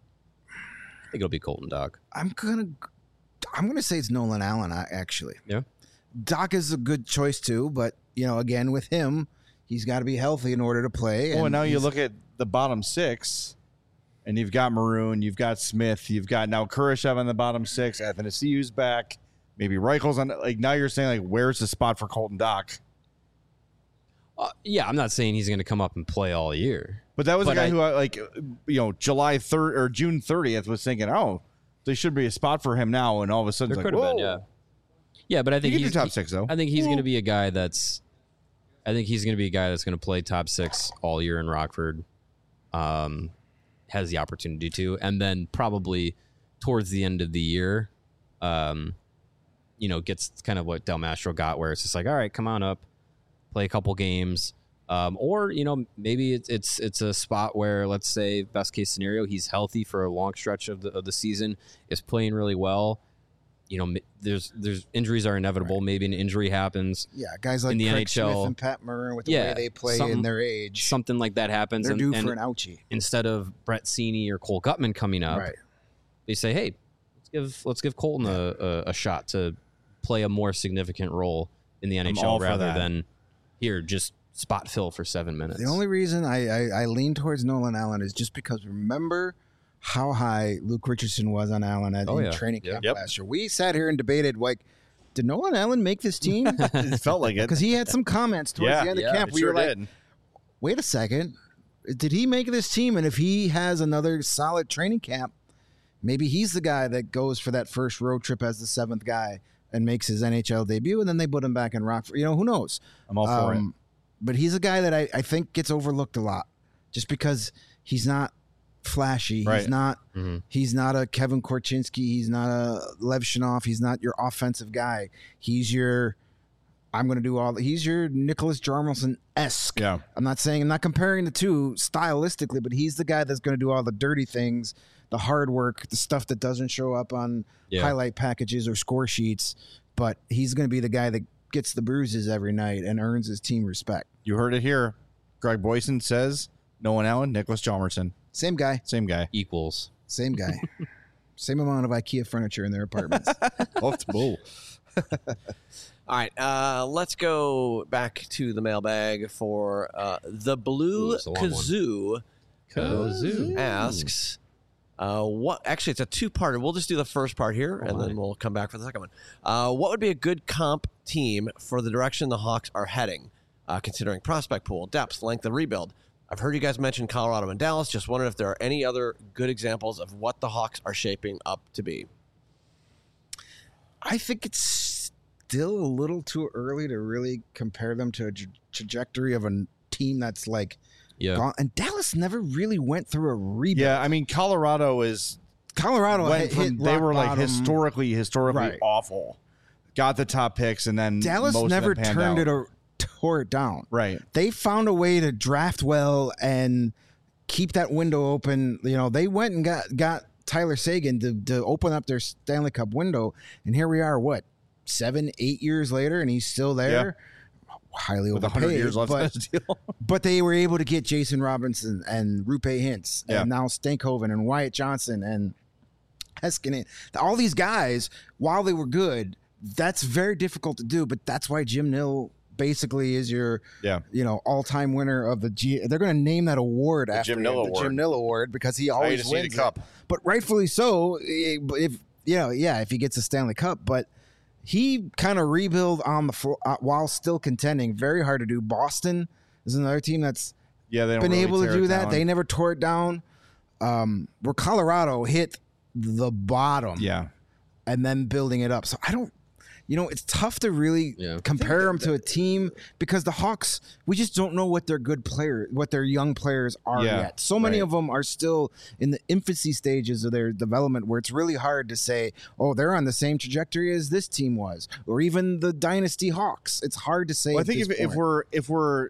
I think it'll be Colton Doc. I'm gonna I'm gonna say it's Nolan Allen. I- Actually, Yeah. Doc is a good choice too, but you know, again with him, he's got to be healthy in order to play. Well, and now you he's- look at the bottom six, and you've got Maroon, you've got Smith, you've got now Kurashev on the bottom six, Athanasiou's back, maybe Reichel's on. Like now you're saying like, where's the spot for Colton Dock? Uh, yeah, I'm not saying he's going to come up and play all year. But that was But a guy I- who, uh, like, you know, July third or June thirtieth was thinking, oh, there should be a spot for him now, and all of a sudden, There it's like, could have been, whoa. yeah, yeah. But I You think get your he's top he- six though. I think he's going to be a guy that's. I think he's going to be a guy that's going to play top six all year in Rockford. Um, has the opportunity to, and then probably towards the end of the year, um, you know, gets kind of what Del Mastro got, where it's just like, all right, come on up, play a couple games, um, or you know, maybe it's it's it's a spot where, let's say, best case scenario, he's healthy for a long stretch of the of the season, is playing really well. You know, m- there's there's injuries are inevitable. Maybe an injury happens. yeah, guys like in the Craig N H L, Smith and Pat Maroon with the yeah, way they play something- in their age, Something like that happens. they're and, due and for an ouchie. instead of Brett Seeney or Cole Gutman coming up, Right. they say, "Hey, let's give let's give Colton a, a, a shot to play a more significant role in the N H L all for rather that. than here just spot fill for seven minutes." The only reason I, I, I lean towards Nolan Allen is just because remember how high Luke Richardson was on Allen at Oh, in yeah. training Yep. camp Yep. last year. We sat here and debated, like, did Nolan Allen make this team? It felt like it. Because he had some comments towards Yeah, the end yeah, of camp. It We sure were like, did. wait a second. Did he make this team? And if he has another solid training camp, maybe he's the guy that goes for that first road trip as the seventh guy and makes his N H L debut, and then they put him back in Rockford. You know, who knows? I'm all for it. Um, But he's a guy that I, I think gets overlooked a lot just because he's not flashy. Right. He's not Mhm. he's not a Kevin Korchinski. He's not a Lev Shinoff. He's not your offensive guy. He's your I'm going to do all. He's your Nicholas Jarmelson esque. Yeah. I'm not saying I'm not comparing the two stylistically, but he's the guy that's going to do all the dirty things, the hard work, the stuff that doesn't show up on Yeah. highlight packages or score sheets. But he's going to be the guy that gets the bruises every night and earns his team respect. You heard it here. Greg Boyson says Nolan Allen, Nicholas Chalmerson. Same guy, Same guy. equals. same guy, same amount of IKEA furniture in their apartments. Both bull. All right, uh, let's go back to the mailbag for uh, the Ooh, Blue it's a long one. Kazoo. Kazoo. Asks, uh, what? Actually, it's a two-parter. We'll just do the first part here, and then we'll come back for the second one. Uh, what would be a good comp team for the direction the Hawks are heading, uh, considering prospect pool, depth, length, and rebuild? I've heard you guys mention Colorado and Dallas. Just wondering if there are any other good examples of what the Hawks are shaping up to be. I think it's still a little too early to really compare them to a tra- trajectory of a team that's like Yeah. gone. And Dallas never really went through a rebuild. Yeah, I mean Colorado is Colorado went hit, from hit they rock were like bottom. historically historically Right. awful. Got the top picks and then Dallas most never of them panned turned out. it or tore it down. Right. They found a way to draft well and keep that window open. You know, they went and got got Tyler Sagan to, to open up their Stanley Cup window, and here we are. What, seven, eight years later, and he's still there. Highly With a overpaid, hundred years left on but, his deal. but they were able to get Jason Robinson and Rupe Hintz, Yeah. and now Stankhoven and Wyatt Johnson and Heskinen. All these guys, while they were good, that's very difficult to do. But that's why Jim Nill basically is your, Yeah. you know, all-time winner of the G. They're going to name that award after Jim him, Nill the Award. Jim Nill Award, because he I always just need wins a cup. it. But rightfully so. If you know, yeah, if he gets a Stanley Cup, but. He kind of rebuild on the flo- uh, while still contending. Very hard to do. Boston is another team that's Yeah, they don't been really able to tear do it that. down. They never tore it down. Um, where Colorado hit the bottom, Yeah. and then building it up. So I don't. you know, it's tough to really Yeah. compare them to a team because the Hawks, we just don't know what their good player, what their young players are Yeah, yet. So many right. of them are still in the infancy stages of their development where it's really hard to say, oh, they're on the same trajectory as this team was, or even the Dynasty Hawks. It's hard to say. Well, I at think if, this if point. we're if we're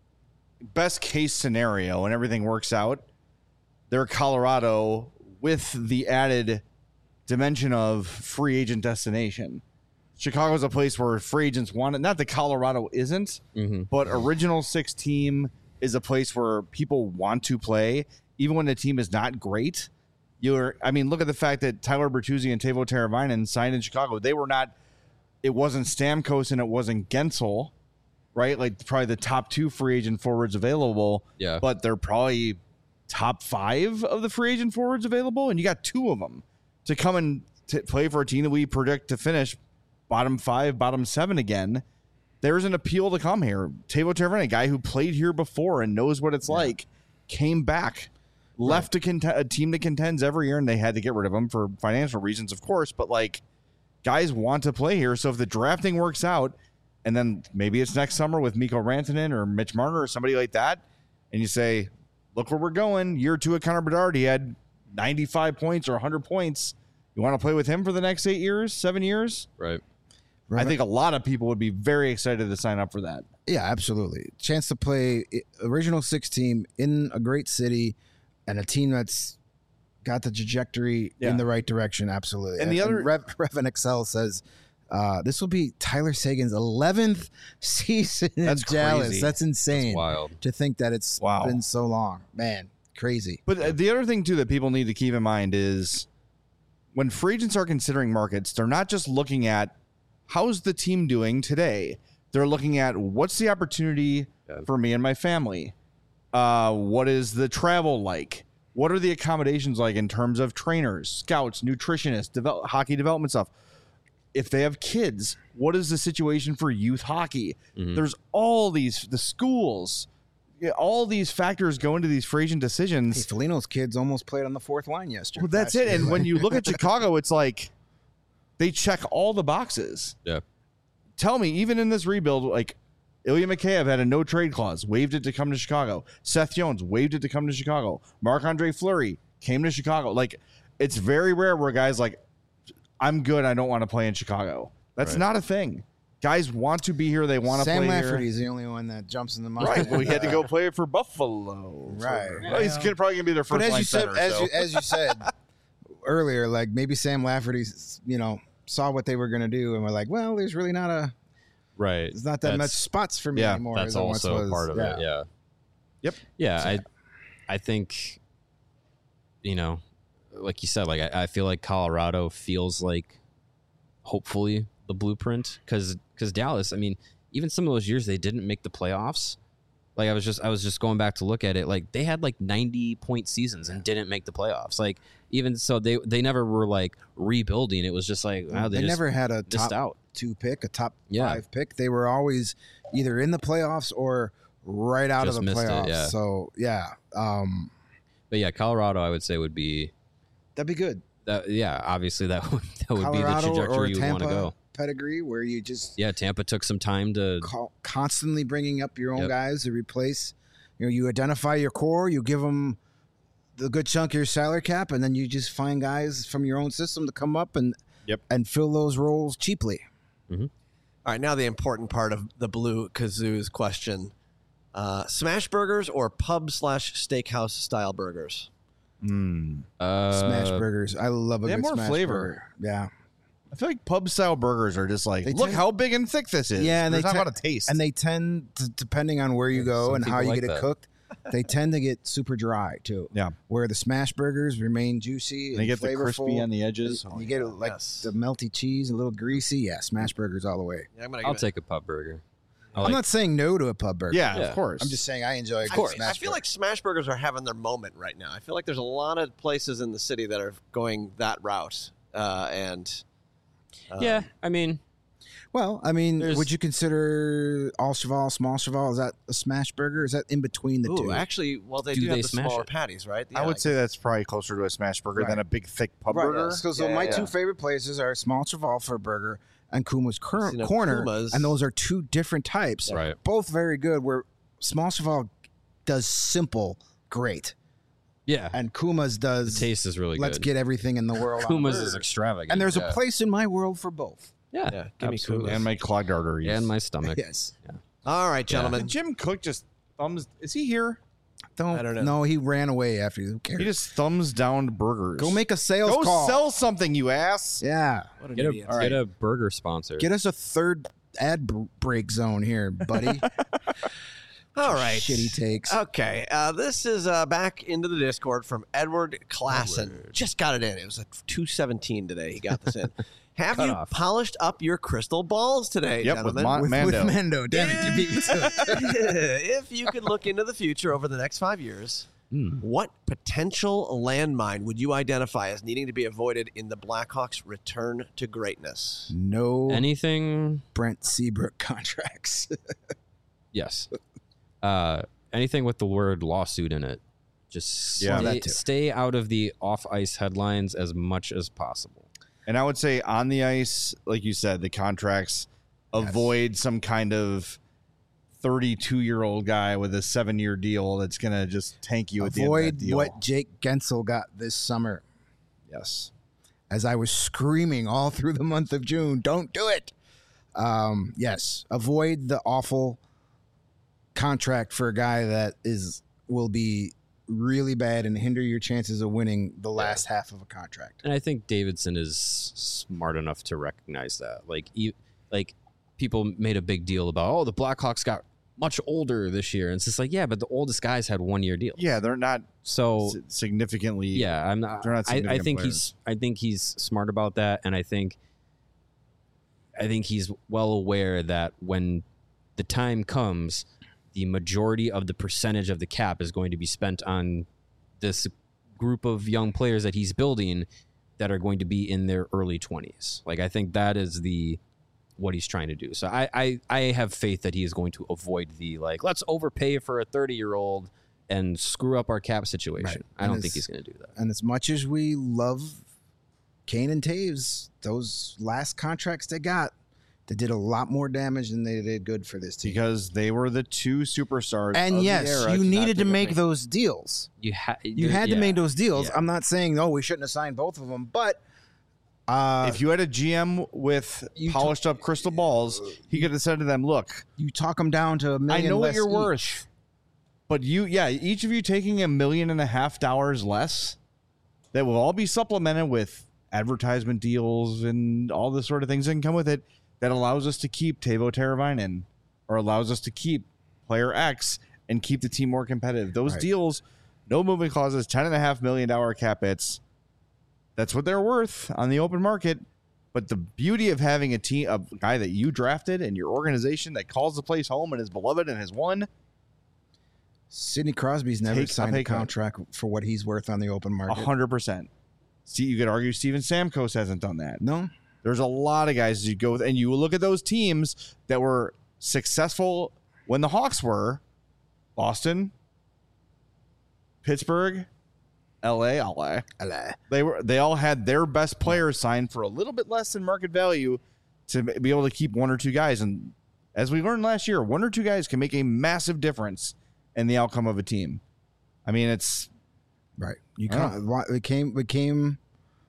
best case scenario and everything works out, they're Colorado with the added dimension of free agent destination. Chicago's a place where free agents want it. Not that Colorado isn't, Mm-hmm. but original six team is a place where people want to play, even when the team is not great. You're, I mean, look at the fact that Tyler Bertuzzi and Teuvo Teravainen signed in Chicago. They were not. It wasn't Stamkos and it wasn't Gensel, right? Like probably the top two free agent forwards available. Yeah. But they're probably top five of the free agent forwards available, and you got two of them to come and t- play for a team that we predict to finish bottom five, bottom seven again. There's an appeal to come here. Teuvo Teravainen, a guy who played here before and knows what it's like, came back, left a, cont- a team that contends every year, and they had to get rid of him for financial reasons, of course. But like, guys want to play here, so if the drafting works out, and then maybe it's next summer with Mikko Rantanen or Mitch Marner or somebody like that, and you say, look where we're going. Year two at Connor Bedard, he had ninety-five points or one hundred points. You want to play with him for the next eight years, seven years? Right. I think a lot of people would be very excited to sign up for that. Yeah, absolutely. Chance to play i- original six team in a great city and a team that's got the trajectory Yeah. in the right direction. Absolutely. And the other- Rev, Revan Excel says uh, this will be Tyler Sagan's eleventh season in That's Dallas. crazy. That's insane. That's wild. To think that it's Wow. been so long. Man, crazy. But uh, the other thing, too, that people need to keep in mind is when free agents are considering markets, they're not just looking at how's the team doing today. They're looking at what's the opportunity Yeah. for me and my family. Uh, what is the travel like? What are the accommodations like in terms of trainers, scouts, nutritionists, develop, hockey development stuff? If they have kids, what is the situation for youth hockey? Mhm. There's all these, the schools, yeah, all these factors go into these free agent Hey, decisions. Felino's kids almost played on the fourth line yesterday. Well, that's last it. year. And when you look at Chicago, it's like they check all the boxes. Yeah. Tell me, even in this rebuild, like Ilya Mikheyev had a no trade clause, waived it to come to Chicago. Seth Jones waived it to come to Chicago. Marc-Andre Fleury came to Chicago. Like, it's very rare where guys like, I'm good, I don't want to play in Chicago. That's Right. not a thing. Guys want to be here. They want to Sam play Lafferty's here. the only one that jumps in the mind. Right. Well, he had to go play for Buffalo. Right. Well, he's gonna, probably going to be their first But as line you said, center, as so. you, as you said earlier, like maybe Sam Lafferty, you know, saw what they were going to do and were like, well, there's really not a, Right. there's not that much That's- spots for me yeah, anymore. That's as there once also was. part of Yeah. it. Yeah. Yep. Yeah. I, I think, you know, like you said, like I, I feel like Colorado feels like hopefully the blueprint because because Dallas, I mean, even some of those years they didn't make the playoffs. Like I was just I was just going back to look at it. Like they had like ninety point seasons and didn't make the playoffs. Like even so, they they never were like rebuilding. It was just like wow, they, they just never had a missed top out. two pick, a top Yeah. five pick. They were always either in the playoffs or right out Just of the missed it, playoffs. yeah. So yeah, um, But yeah, Colorado, I would say would be that'd be good. that. Yeah, obviously that would that would be the Colorado or trajectory you would want Tampa to go. pedigree, where you just Yeah, Tampa took some time to. co- constantly bringing up your own Yep. guys to replace. You know, you identify your core, you give them the good chunk of your salary cap, and then you just find guys from your own system to come up and Yep. and fill those roles cheaply. All right, now the important part of the Blue Kazoo's question. Uh, smash burgers or pub slash steakhouse style burgers? Mm. Uh, Smash burgers, I love a they have good more smash flavor. burger. Yeah, I feel like pub style burgers are just like, They look tend- how big and thick this is. Yeah, and There's they not a ten- lot of taste. and they tend to, depending on where you go some and how people you like get it that. cooked, they tend to get super dry too. Yeah. Where the smash burgers remain juicy and they get the flavorful. crispy on the edges. And you get it like yes. the melty cheese, a little greasy. Yeah, smash burgers all the way. Yeah, I'm gonna I'll give it- take a pub burger. I I'm like- not saying no to a pub burger. Yeah, Yeah. of course. I'm just saying I enjoy a I, good feel- smash I feel burger. like smash burgers are having their moment right now. I feel like there's a lot of places in the city that are going that route, uh, and um, yeah, I mean, Well, I mean, There's- would you consider all cheval, small cheval? Is that a smash burger? Is that in between the Ooh, two? actually, well, they Do do, they have the smash smaller it? patties, right? I Yeah, would say guess. that's probably closer to a smash burger Right. than a big thick pub Right, burger. So, so Yeah, my yeah. two favorite places are small cheval for a burger and Kuma's cur- seen a corner, Kuma's. and those are two different types. Right. Both very good. Where Small Cheval does simple great, Yeah. and Kuma's The does taste is really let's good. get everything in the world. on Kuma's the is bird. extravagant. And there's yeah. a place in my world for both. Yeah. Yeah, give me absolutely. And my clogged arteries. And my stomach. Yes. All right, gentlemen. Did Jim Cook just thumbs? Is he here? Don't, I don't know. No, he ran away after. Who cares? He just thumbs down burgers. Go make a sales Go call. sell something, you ass. Yeah. What an Get a, idiot. All right. get a burger sponsor. Get us a third ad br- break zone here, buddy. All right. Shitty takes. Okay, uh, this is uh, back into the Discord from Edward Klassen. Just got it in. It was at two seventeen today. He got this in. Have Cut you off. polished up your crystal balls today, Yep, with gentlemen? Mon- with, Mando. with Mando. Damn it, you beat me to it. If you could look into the future over the next five years, Hmm. what potential landmine would you identify as needing to be avoided in the Blackhawks' return to greatness? No Anything? Brent Seabrook contracts. Yes. Uh, anything with the word lawsuit in it. Just Yeah. stay, That too. stay out of the off ice headlines as much as possible. And I would say on the ice, like you said, the contracts Yes. avoid some kind of thirty-two-year-old guy with a seven-year deal that's going to just tank you at the end of Avoid that deal. what Jake Gensel got this summer. Yes. As I was screaming all through the month of June, don't do it. Um, yes, avoid the awful contract for a guy that is will be really bad and hinder your chances of winning the last half of a contract. And I think Davidson is smart enough to recognize that. Like, e- like people made a big deal about, oh, the Blackhawks got much older this year. And it's just like, yeah, but the oldest guys had one year deals. Yeah, they're not So s- significantly. yeah, I'm not. They're not I, I significant think players. he's. I think he's smart about that, and I think. I think he's well aware that when the time comes, the majority of the percentage of the cap is going to be spent on this group of young players that he's building that are going to be in their early twenties. Like, I think that is the what he's trying to do. So I, I, I have faith that he is going to avoid the, like, let's overpay for a thirty-year-old and screw up our cap situation. Right. I And don't think it's- he's going to do that. And as much as we love Kane and Taves, those last contracts they got, they did a lot more damage than they did good for this team. Because they were the two superstars. And of yes, the era you not needed to take a make break. those deals. You, ha- You had to yeah. make those deals. Yeah. I'm not saying, oh, we shouldn't have signed both of them, but uh, If you had a G M with You polished up crystal balls, he could have said to them, "Look, you talk them down to a I million. know what less you're each. worth, but you, yeah, each of you taking a million and a half dollars less, that will all be supplemented with advertisement deals and all the sort of things that can come with it that allows us to keep Teuvo Teravainen or allows us to keep player X and keep the team more competitive. Those Right. deals, no moving clauses, ten and a half million dollar cap hits. That's what they're worth on the open market. But the beauty of having a team, a guy that you drafted and your organization that calls the place home and is beloved and has won, Sidney Crosby's never Take- signed I'll a take that. contract for what he's worth on the open a market. hundred percent. See, you could argue Steven Stamkos hasn't done that. No, There's a lot of guys you go with, and you look at those teams that were successful when the Hawks were Boston, Pittsburgh, L A, L A. Alah. They were they all had their best players signed for a little bit less than market value to be able to keep one or two guys. And as we learned last year, one or two guys can make a massive difference in the outcome of a team. I mean, it's right. You I don't can't. why- It came. It came.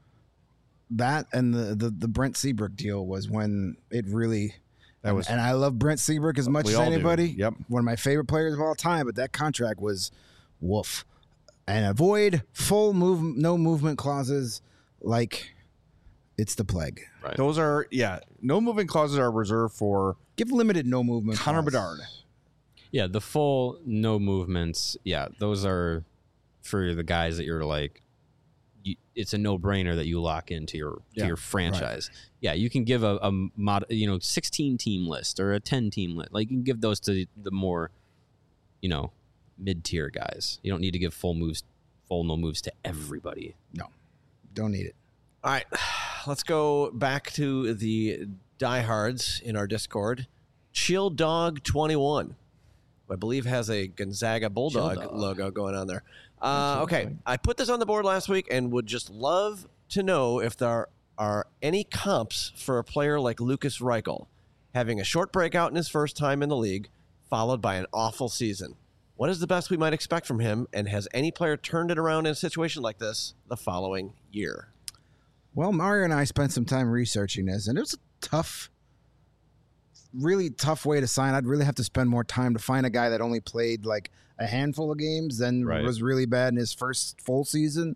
That and the, the the Brent Seabrook deal was when it really. that was And I love Brent Seabrook as much We as all do. anybody. Yep. One of my favorite players of all time, but that contract was woof. And avoid full move, no movement clauses like it's the plague. those are yeah. No moving clauses are reserved for Give limited no movement. Connor clause. Bedard. Yeah, the full no movements. Yeah, those are for the guys that you're like. You, it's a no brainer that you lock into your to Yeah, your franchise. Yeah, you can give a, a mod, you know, sixteen team list or a ten team list. Like, you can give those to the more, you know, mid tier guys. You don't need to give full moves, full no moves to everybody. Don't need it. All right, let's go back to the diehards in our Discord. Chill Dog twenty-one, who I believe has a Gonzaga Bulldog Chill Dog. logo going on there. Uh, okay, I put this on the board last week and would just love to know if there are any comps for a player like Lukas Reichel, having a short breakout in his first time in the league, followed by an awful season? What is the best we might expect from him, and has any player turned it around in a situation like this the following year? Well, Mario and I spent some time researching this, and it was a tough, really tough way to sign. I'd really have to spend more time to find a guy that only played like a handful of games, then Right. was really bad in his first full season.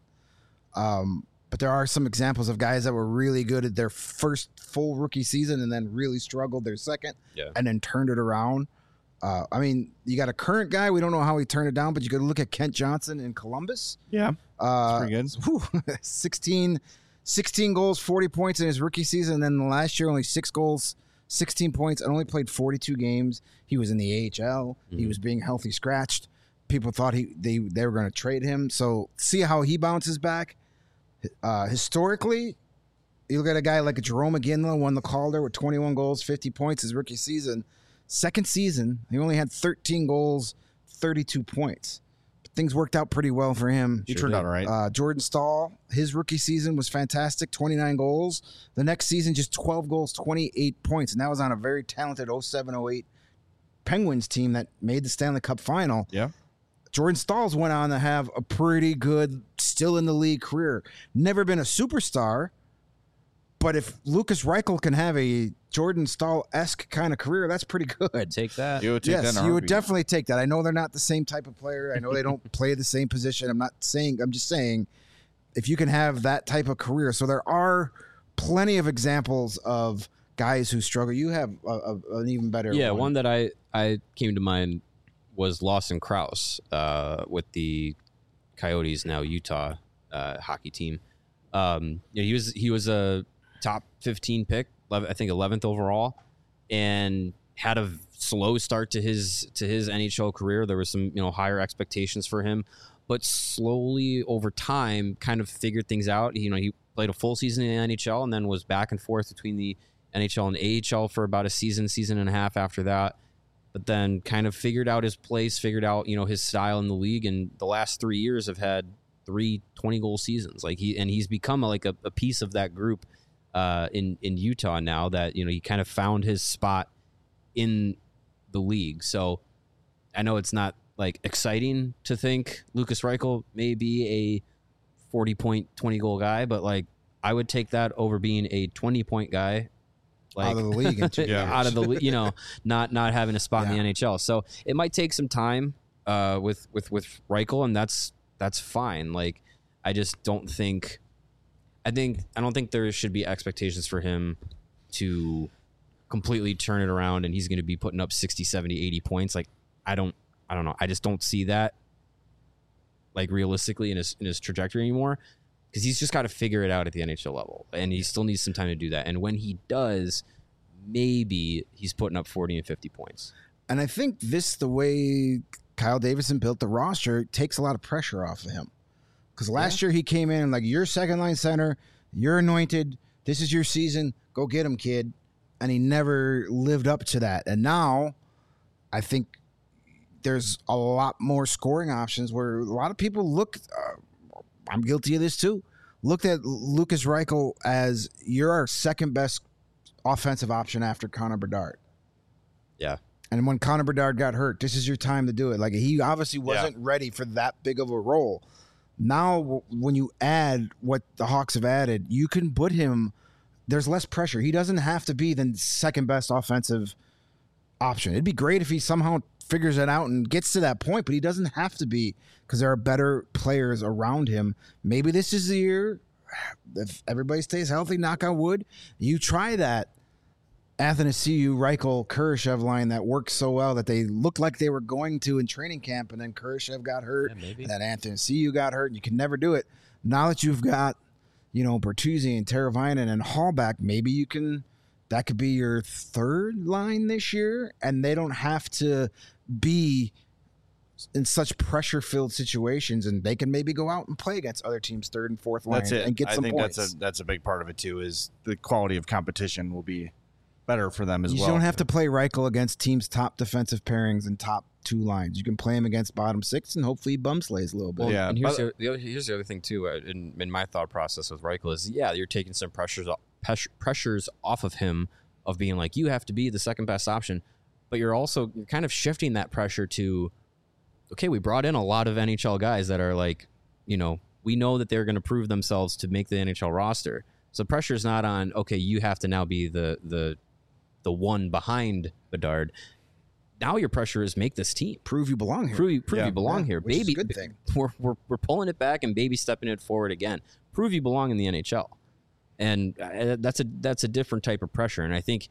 Um, but there are some examples of guys that were really good at their first full rookie season and then really struggled their second Yeah. and then turned it around. Uh, I mean, you got a current guy. We don't know how he turned it down, but you got to look at Kent Johnson in Columbus. Yeah, Uh, pretty good. whew, sixteen, sixteen goals, forty points in his rookie season. And then last year, only six goals, sixteen points, and only played forty-two games. He was in the A H L. He Mhm. was being healthy scratched. People thought he they, they were going to trade him. So see how he bounces back. Uh, historically, you look at a guy like Jerome McGinley, won the Calder with twenty-one goals, fifty points his rookie season. Second season, he only had thirteen goals, thirty-two points. But things worked out pretty well for him. He turned out all right. Uh, Jordan Stahl, his rookie season was fantastic, twenty-nine goals. The next season, just twelve goals, twenty-eight points. And that was on a very talented oh seven oh eight Penguins team that made the Stanley Cup final. Yeah. Jordan Stahls went on to have a pretty good, still in the league career. Never been a superstar, but if Lukas Reichel can have a Jordan Stahl-esque kind of career, that's pretty good. Take that. You would take that Yes, in a you would heartbeat. definitely take that. I know they're not the same type of player. I know they don't play the same position. I'm not saying, I'm just saying, if you can have that type of career. So there are plenty of examples of guys who struggle. You have a, a, an even better Yeah, one. one that I, I came to mind was Lawson Krause uh, with the Coyotes, now Utah uh, hockey team. Um, yeah, he was he was a top fifteen pick, I think eleventh overall, and had a slow start to his to his N H L career. There was some you know higher expectations for him, but slowly over time, kind of figured things out. You know, he played a full season in the N H L and then was back and forth between the N H L and A H L for about a season, season and a half after that. But then kind of figured out his place, figured out, you know, his style in the league. And the last three years have had three twenty-goal seasons. Like he and he's become a, like a, a piece of that group uh, in, in Utah now that, you know, he kind of found his spot in the league. So I know it's not like exciting to think Lukas Reichel may be a forty-point, twenty-goal guy, but like I would take that over being a twenty-point guy. Like, out of the league in two Yeah. years. out of the, you know, not not having a spot in the Yeah. N H L. So it might take some time uh, with with with Reichel, and that's that's fine. Like I just don't think, I think I don't think there should be expectations for him to completely turn it around, and he's going to be putting up sixty, seventy, eighty points. Like I don't I don't know. I just don't see that like realistically in his in his trajectory anymore. Because he's just got to figure it out at the N H L level, and he still needs some time to do that. And when he does, maybe he's putting up forty and fifty points. And I think this, the way Kyle Davison built the roster, takes a lot of pressure off of him. Because last year he came in and like, you're second line center, you're anointed, this is your season, go get him, kid. And he never lived up to that. And now I think there's a lot more scoring options where a lot of people look, uh, I'm guilty of this too, looked at Lukas Reichel as you're our second best offensive option after Connor Bedard. Yeah. And when Connor Bedard got hurt, this is your time to do it. Like he obviously wasn't ready for that big of a role. Now, w- when you add what the Hawks have added, you can put him, there's less pressure. He doesn't have to be the second best offensive option. It'd be great if he somehow figures it out and gets to that point, but he doesn't have to be because there are better players around him. Maybe this is the year, if everybody stays healthy, knock on wood, you try that Athanasiou, Reichel, Kurashev line that worked so well that they looked like they were going to in training camp, and then Kurashev got hurt, Yeah, maybe. and then Athanasiou got hurt, and you can never do it. Now that you've got, you know, Bertuzzi and Teravainen and Hallback, maybe you can, that could be your third line this year, and they don't have to be in such pressure-filled situations, and they can maybe go out and play against other teams' third and fourth line That's it. and get I some think points. that's a that's a big part of it too. Is the quality of competition will be better for them as You well. don't have to play Reichel against teams' top defensive pairings and top two lines. You can play him against bottom six, and hopefully he bum slays a little bit. Well, Yeah, and here's but- the, the other, here's the other thing too. Uh, in, in my thought process with Reichel is, yeah, you're taking some pressures off, pes- pressures off of him of being like, you have to be the second best option, but you're also you're kind of shifting that pressure to, okay, we brought in a lot of N H L guys that are like, you know, we know that they're going to prove themselves to make the N H L roster. So pressure is not on, okay, you have to now be the the the one behind Bedard. Now your pressure is make this team. Prove you belong here. Prove, prove Yeah. you belong Yeah, here. which is a Baby, good thing. We're, we're, we're pulling it back and baby stepping it forward again. Prove you belong in the N H L. And uh, that's a that's a different type of pressure. And I think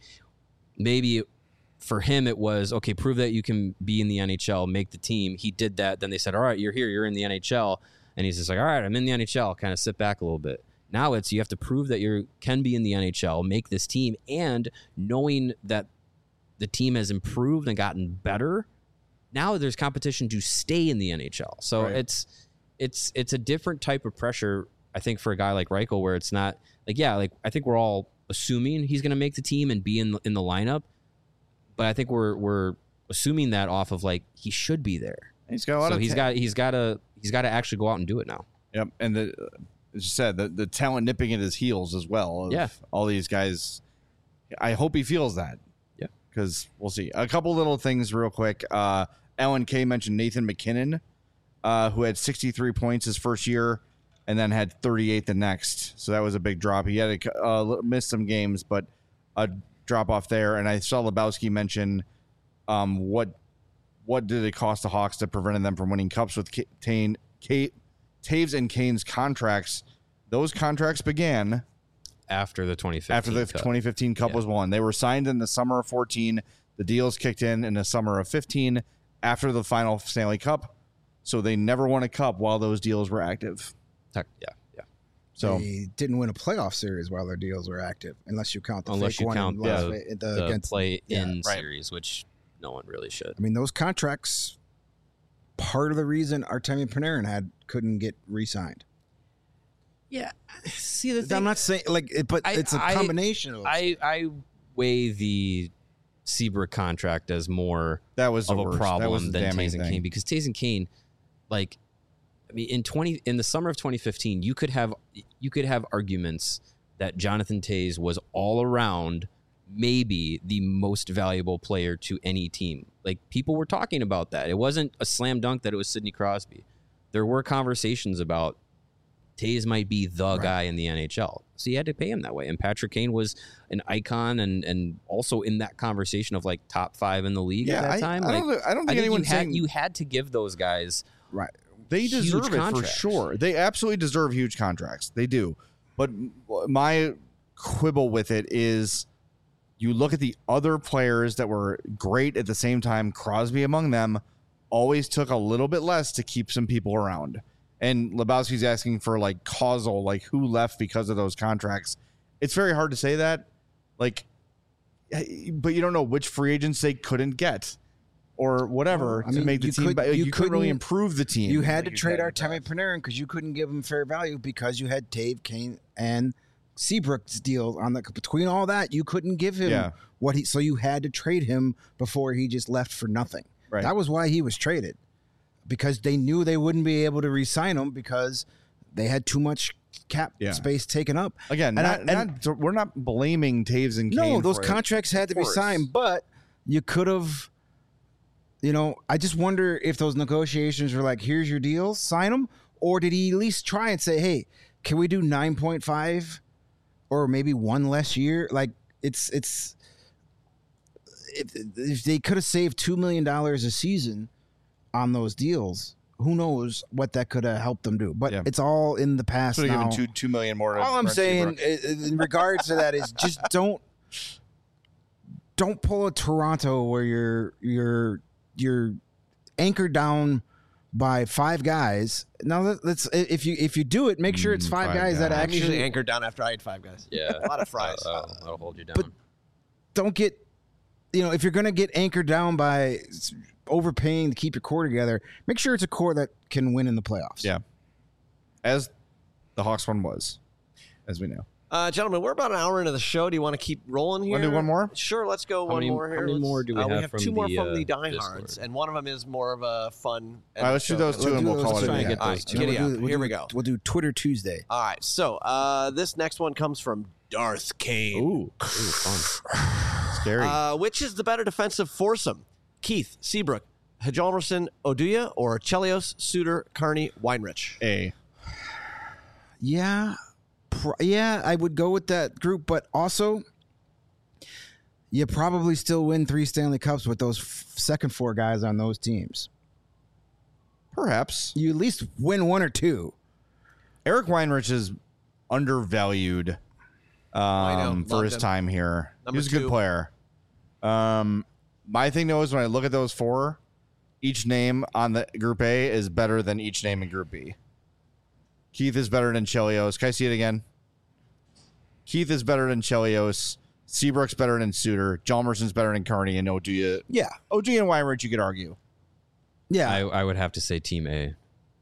maybe for him it was, okay, prove that you can be in the N H L, make the team. He did that. Then they said, all right, you're here, you're in the N H L. And he's just like, all right, I'm in the N H L. Kind of sit back a little bit. Now it's you have to prove that you can be in the N H L, make this team, and knowing that the team has improved and gotten better, now there's competition to stay in the N H L. So Right. it's it's it's a different type of pressure, I think, for a guy like Reichel, where it's not like, yeah, like I think we're all assuming he's going to make the team and be in in the lineup, but I think we're we're assuming that off of like he should be there. He's got a lot So of he's ta- got he's got to he's got to actually go out and do it now. Yep, and the as you said, the the talent nipping at his heels as well. of Yeah. all these guys. I hope he feels that. Yeah, because we'll see. A couple little things real quick. Uh, Alan K mentioned Nathan McKinnon, uh, who had sixty-three points his first year, and then had thirty-eight the next. So that was a big drop. He had to uh, miss some games, but a drop off there. And I saw Lebowski mention um, what what did it cost the Hawks to prevent them from winning cups with K- Tane, K- Taves and Kane's contracts. Those contracts began after the twenty fifteen after the Cup. twenty fifteen Cup Yeah. was won. They were signed in the summer of fourteen. The deals kicked in in the summer of fifteen after the final Stanley Cup. So they never won a cup while those deals were active. Tech- yeah, yeah. So They didn't win a playoff series while their deals were active, unless you count the Unless fake you one count in Las the, Ve- the, the against. play yeah, in right. series, which no one really should. I mean, those contracts. Part of the reason Artemi Panarin had couldn't get re-signed. Yeah. See, the I'm not saying like, it, but I- it's a I- combination of. I I weigh the Seabrook contract as more that was the of a worst. That was problem the than damning Taves and thing. Kane, because Taves and Kane, like, I mean, in twenty in the summer of twenty fifteen, you could have you could have arguments that Jonathan Taves was all around maybe the most valuable player to any team. Like, people were talking about that. It wasn't a slam dunk that it was Sidney Crosby. There were conversations about Taves might be the Right. guy in the N H L. So you had to pay him that way. And Patrick Kane was an icon and and also in that conversation of like top five in the league Yeah, at that I, time. I Like, don't. I don't I think think anyone's you had, saying you had to give those guys right. they huge deserve it for contracts. sure. They absolutely deserve huge contracts. They do. But my quibble with it is, you look at the other players that were great at the same time. Crosby among them always took a little bit less to keep some people around. And Lebowski's asking for like causal, like who left because of those contracts. It's very hard to say that, like, but you don't know which free agents they couldn't get or whatever Well, I to mean, make the you team. could- but you you couldn't really couldn't- improve the team. You had like to trade in the Artemi past. Panarin because you couldn't give him fair value because you had Tave, Kane, and Seabrook's deal on the between all that. You couldn't give him Yeah. what he, so you had to trade him before he just left for nothing. Right. That was why he was traded, because they knew they wouldn't be able to re-sign him because they had too much cap Yeah. space taken up. Again, And I- not, not, we're not blaming Taves and Kane. No, those for it. contracts had to be course. signed, but you could have, you know, I just wonder if those negotiations were like, here's your deal, sign them, or did he at least try and say, hey, can we do nine point five or maybe one less year? Like, it's, it's, if, if they could have saved two million dollars a season on those deals, who knows what that could have helped them do. But Yeah. it's all in the past Should have now. given two two million more. to All I'm Brent saying Seabrook. i- in regards to that is just don't don't pull a Toronto where you're you're you're anchored down by five guys. Now let- let's if you if you do it, make sure it's Mm, five, five guys that guys. I'm actually usually anchored down after I ate five guys. Yeah. A lot of fries. That'll, that'll hold you down. But- don't get, you know, if you're gonna get anchored down by s- overpaying to keep your core together, make sure it's a core that can win in the playoffs. Yeah. As the Hawks one was, as we know. Uh, gentlemen, we're about an hour into the show. Do you want to keep rolling here? Want to do one more? Sure, let's go How one many- more here. how many Let's- more do we uh, have We have from two more the, from uh, the diehards, Discord? and one of them is more of a fun. All right, let's do those two, Let's and do we'll those call it two. a try day. and get All those right, two. giddy We'll up. do- we'll Here do- we go. We'll do Twitter Tuesday. All right, so uh, this next one comes from Darth Kane. Ooh, Ooh, fun. scary. Uh, which is the better defensive foursome? Keith, Seabrook, Hjalmarsson, Oduya, or Chelios, Suter, Carney, Weinrich? A. Yeah, pr- yeah, I would go with that group, but also you probably still win three Stanley Cups with those f- second four guys on those teams. Perhaps. You at least win one or two. Eric Weinrich is undervalued I know. um, for Loved his him. time here. Number he was a good two. player. Um, my thing, though, is when I look at those four, each name on the Group A is better than each name in Group B. Keith is better than Chelios. Can I see it again? Keith is better than Chelios. Seabrook's better than Suter. Hjalmarsson's better than Carney. And Oduya. Yeah, Oduya and Weinrich, you could argue. yeah, I, I would have to say Team A.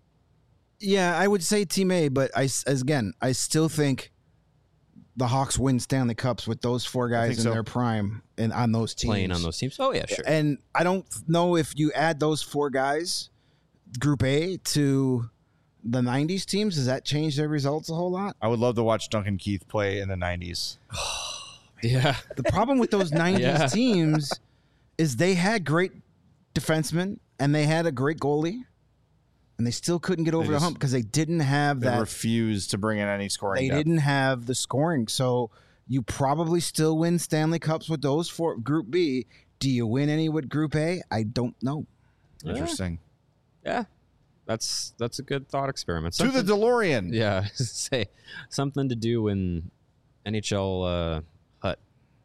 yeah. I would say Team A, but I s- as again, I still think the Hawks win Stanley Cups with those four guys think in so. their prime and on those teams. Playing on those teams. Oh, yeah, sure. And I don't know if you add those four guys, Group A, to the nineties teams, does that change their results a whole lot? I would love to watch Duncan Keith play in the nineties. Yeah. The problem with those nineties Yeah. teams is they had great defensemen and they had a great goalie, and they still couldn't get over They the just- hump because they didn't have They that. refused to bring in any scoring They depth. didn't have the scoring. So you probably still win Stanley Cups with those four. Group B. Do you win any with Group A? I don't know. Interesting. Yeah. That's that's a good thought experiment. To the Something- DeLorean. Yeah, say something to do when N H L uh, hut.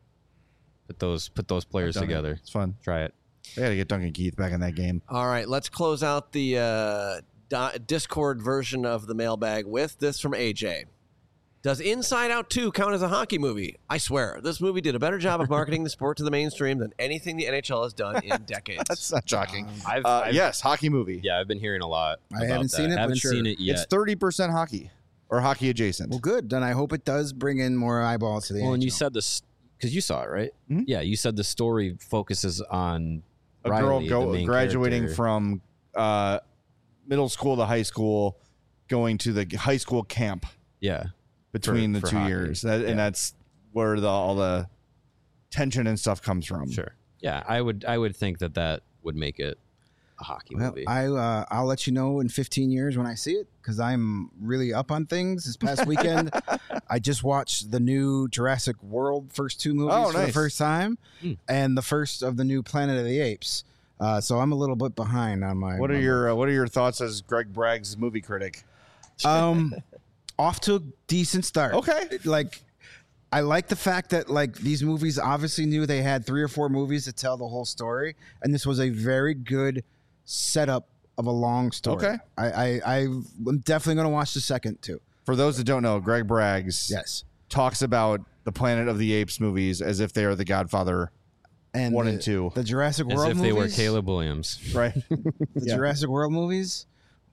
Put those put those players Done it. together. It's fun. Try it. They got to get Duncan Keith back in that game. All right, let's close out the uh, di- Discord version of the mailbag with this from A J. Does Inside Out two count as a hockey movie? I swear, this movie did a better job of marketing the sport to the mainstream than anything the N H L has done in decades. That's not shocking. I've, Uh, I've- yes, hockey movie. yeah, I've been hearing a lot. I about haven't that. seen it, but Haven't sure. seen it yet. It's thirty percent hockey or hockey adjacent. Well, good. Then I hope it does bring in more eyeballs to the Well, and you N H L. said this because you saw it, right? Mhm. Yeah, you said the story focuses on A Riley, girl the go, main graduating character. from uh, middle school to high school, going to the high school camp Yeah, between For- the for two hockey. years. That, Yeah. And that's where the, all the tension and stuff comes from. sure. Yeah, I would I would think that that would make it a hockey Well, movie. I uh, I'll let you know in fifteen years when I see it because I'm really up on things. This past weekend, I just watched the new Jurassic World first two movies Oh, for the nice. first time, Hmm. and the first of the new Planet of the Apes. Uh, so I'm a little bit behind on my. What are my- your uh, What are your thoughts as Greg Bragg's movie critic? um off to a decent start? Okay. Like. I like the fact that like these movies obviously knew they had three or four movies to tell the whole story, and this was a very good setup of a long story. Okay. I, I I'm definitely gonna watch the second too. For those that don't know, Greg Braggs Yes, talks about the Planet of the Apes movies as if they are the Godfather and one the, and two. the Jurassic As World if they were movies, Caleb Williams. Right? the Yeah. Jurassic World movies,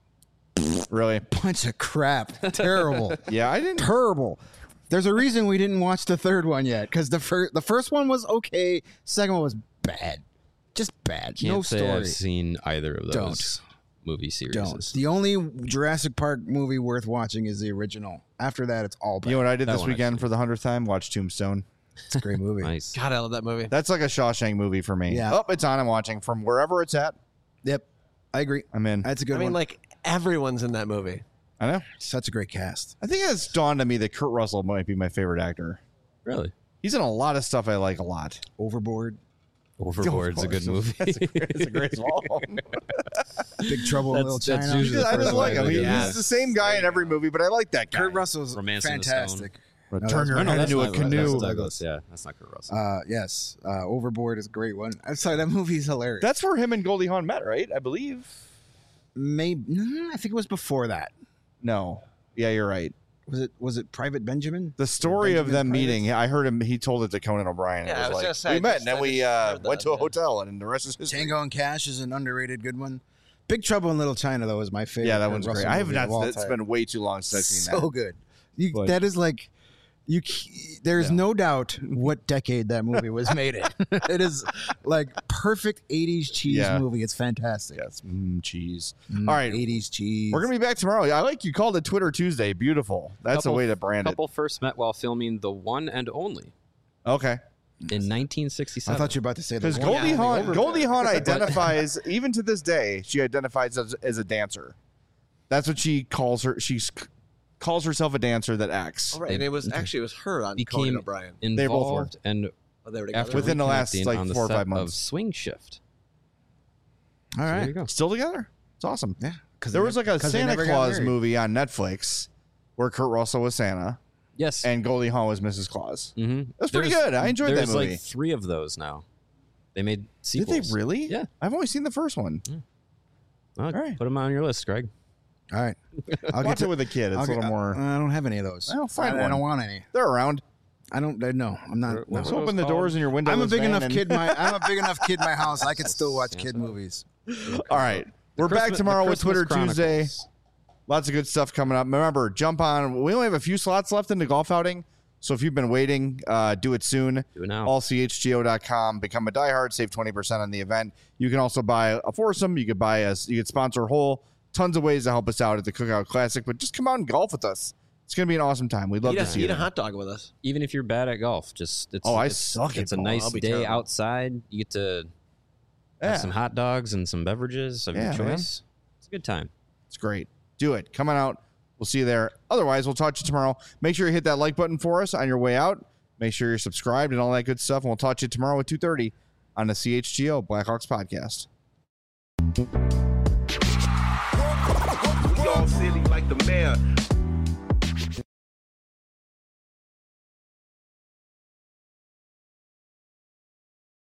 Really? bunch of crap, terrible, Yeah, I didn't. terrible. There's a reason we didn't watch the third one yet because the first the first one was okay, second one was bad, just bad. Can't no say story. I've seen either of those Don't. movie series. Don't. The only Jurassic Park movie worth watching is the original. After that, it's all bad. You know what I did That this one I've weekend seen. for the hundredth time? Watch Tombstone. It's a great movie. Nice. God, I love that movie. That's like a Shawshank movie for me. Yeah. Oh, it's on. I'm watching from wherever it's at. Yep, I agree. I'm in. That's a good I mean, one. like, everyone's in that movie. I know. Such a great cast. I think it's dawned on me that Kurt Russell might be my favorite actor. Really? He's in a lot of stuff I like a lot. Overboard, Overboard's a good movie. That's a great, it's a great film. Big Trouble in That's- Little that's China. usually the I just first like one him. I He- think of. He's the same guy in every movie, but I like that guy. Kurt Russell's Romance in the fantastic. Turn No, your that's- Oh, no, head that's into a not- canoe. That's Douglas. Yeah, that's not Kurt Russell. Uh, yes, uh, Overboard is a great one. I'm sorry, that movie's hilarious. That's where him and Goldie Hawn met, right? I believe. maybe mm, I think it was before that. No. Yeah, you're right. Was it? Was it Private Benjamin? The story of Benjamin them Private? meeting, I heard him, he told it to Conan O'Brien. Yeah, I it was was, gonna like, say, we met, just- and then I we just uh, heard went that, to a yeah. hotel, and the rest is history. Tango and Cash is an underrated good one. Big Trouble in Little China though is my favorite. Yeah, that Kurt one's Russell great. I have movie not. of all It's time. been way too long since I've seen so that. good. You, But- that is like You, c- there's Yeah. no doubt what decade that movie was made in. It is like perfect eighties cheese Yeah. movie. It's fantastic. Yes, mm, cheese. Mm, All right. eighties cheese. We're gonna be back tomorrow. I like you called it Twitter Tuesday. Beautiful. That's Couple- a way to brand it. Couple first met while filming The One and Only Okay. in nineteen I sixty-seven. thought you were about to say that. Because one. Goldie Yeah, Hawn, the Goldie Hawn But- identifies even to this day. She identifies as, as a dancer. That's what she calls her. She calls herself a dancer that acts. All right, and it was actually it was her on Conan became O'Brien. They both were. involved and Oh, they were together. after Within the last, reconnecting like, on the four or set five months. of Swing Shift. All So there you right. go. Still together. It's awesome. Yeah. Cause There they was nev- like a 'cause they Santa never got Claus married. movie on Netflix where Kurt Russell was Santa Yes. and Goldie Hawn was Missus Claus. mm-hmm. That's pretty good. I enjoyed that there's movie. like three of those now. They made Did sequels. they really? Yeah. I've only seen the first one. Well, All right. Put them on your list, Greg. All right. I'll Watch to- it with a kid. It's I'll a little get- more. I don't have any of those. I'll find I, I one. don't want any. They're around. I don't. I, no, I'm not. What- no. what So was open the called? doors in your window. I'm a big enough kid. My I'm a big enough kid in my house. I can still watch kid movies. All right. We're back Christmas- tomorrow the with Twitter Christmas Tuesday. Chronicles. Lots of good stuff coming up. Remember, jump on. We only have a few slots left in the golf outing. So if you've been waiting, uh, do it soon. Do it now. all c h g o dot com. Become a diehard. Save twenty percent on the event. You can also buy a foursome. You could buy a. You could sponsor a whole. Tons of ways to help us out at the Cookout Classic. But just come out and golf with us. It's going to be an awesome time. We'd love Eat, to a, see eat you. a hot dog with us. Even if you're bad at golf, just it's Oh, I it's, suck at It's a golf. nice I'll be day terrible. outside. You get to Yeah. have some hot dogs and some beverages of Yeah, your man. choice. It's a good time. It's great. Do it. Come on out. We'll see you there. Otherwise, we'll talk to you tomorrow. Make sure you hit that like button for us on your way out. Make sure you're subscribed and all that good stuff. And we'll talk to you tomorrow at two thirty on the C H G O Blackhawks podcast. We all silly like the mayor.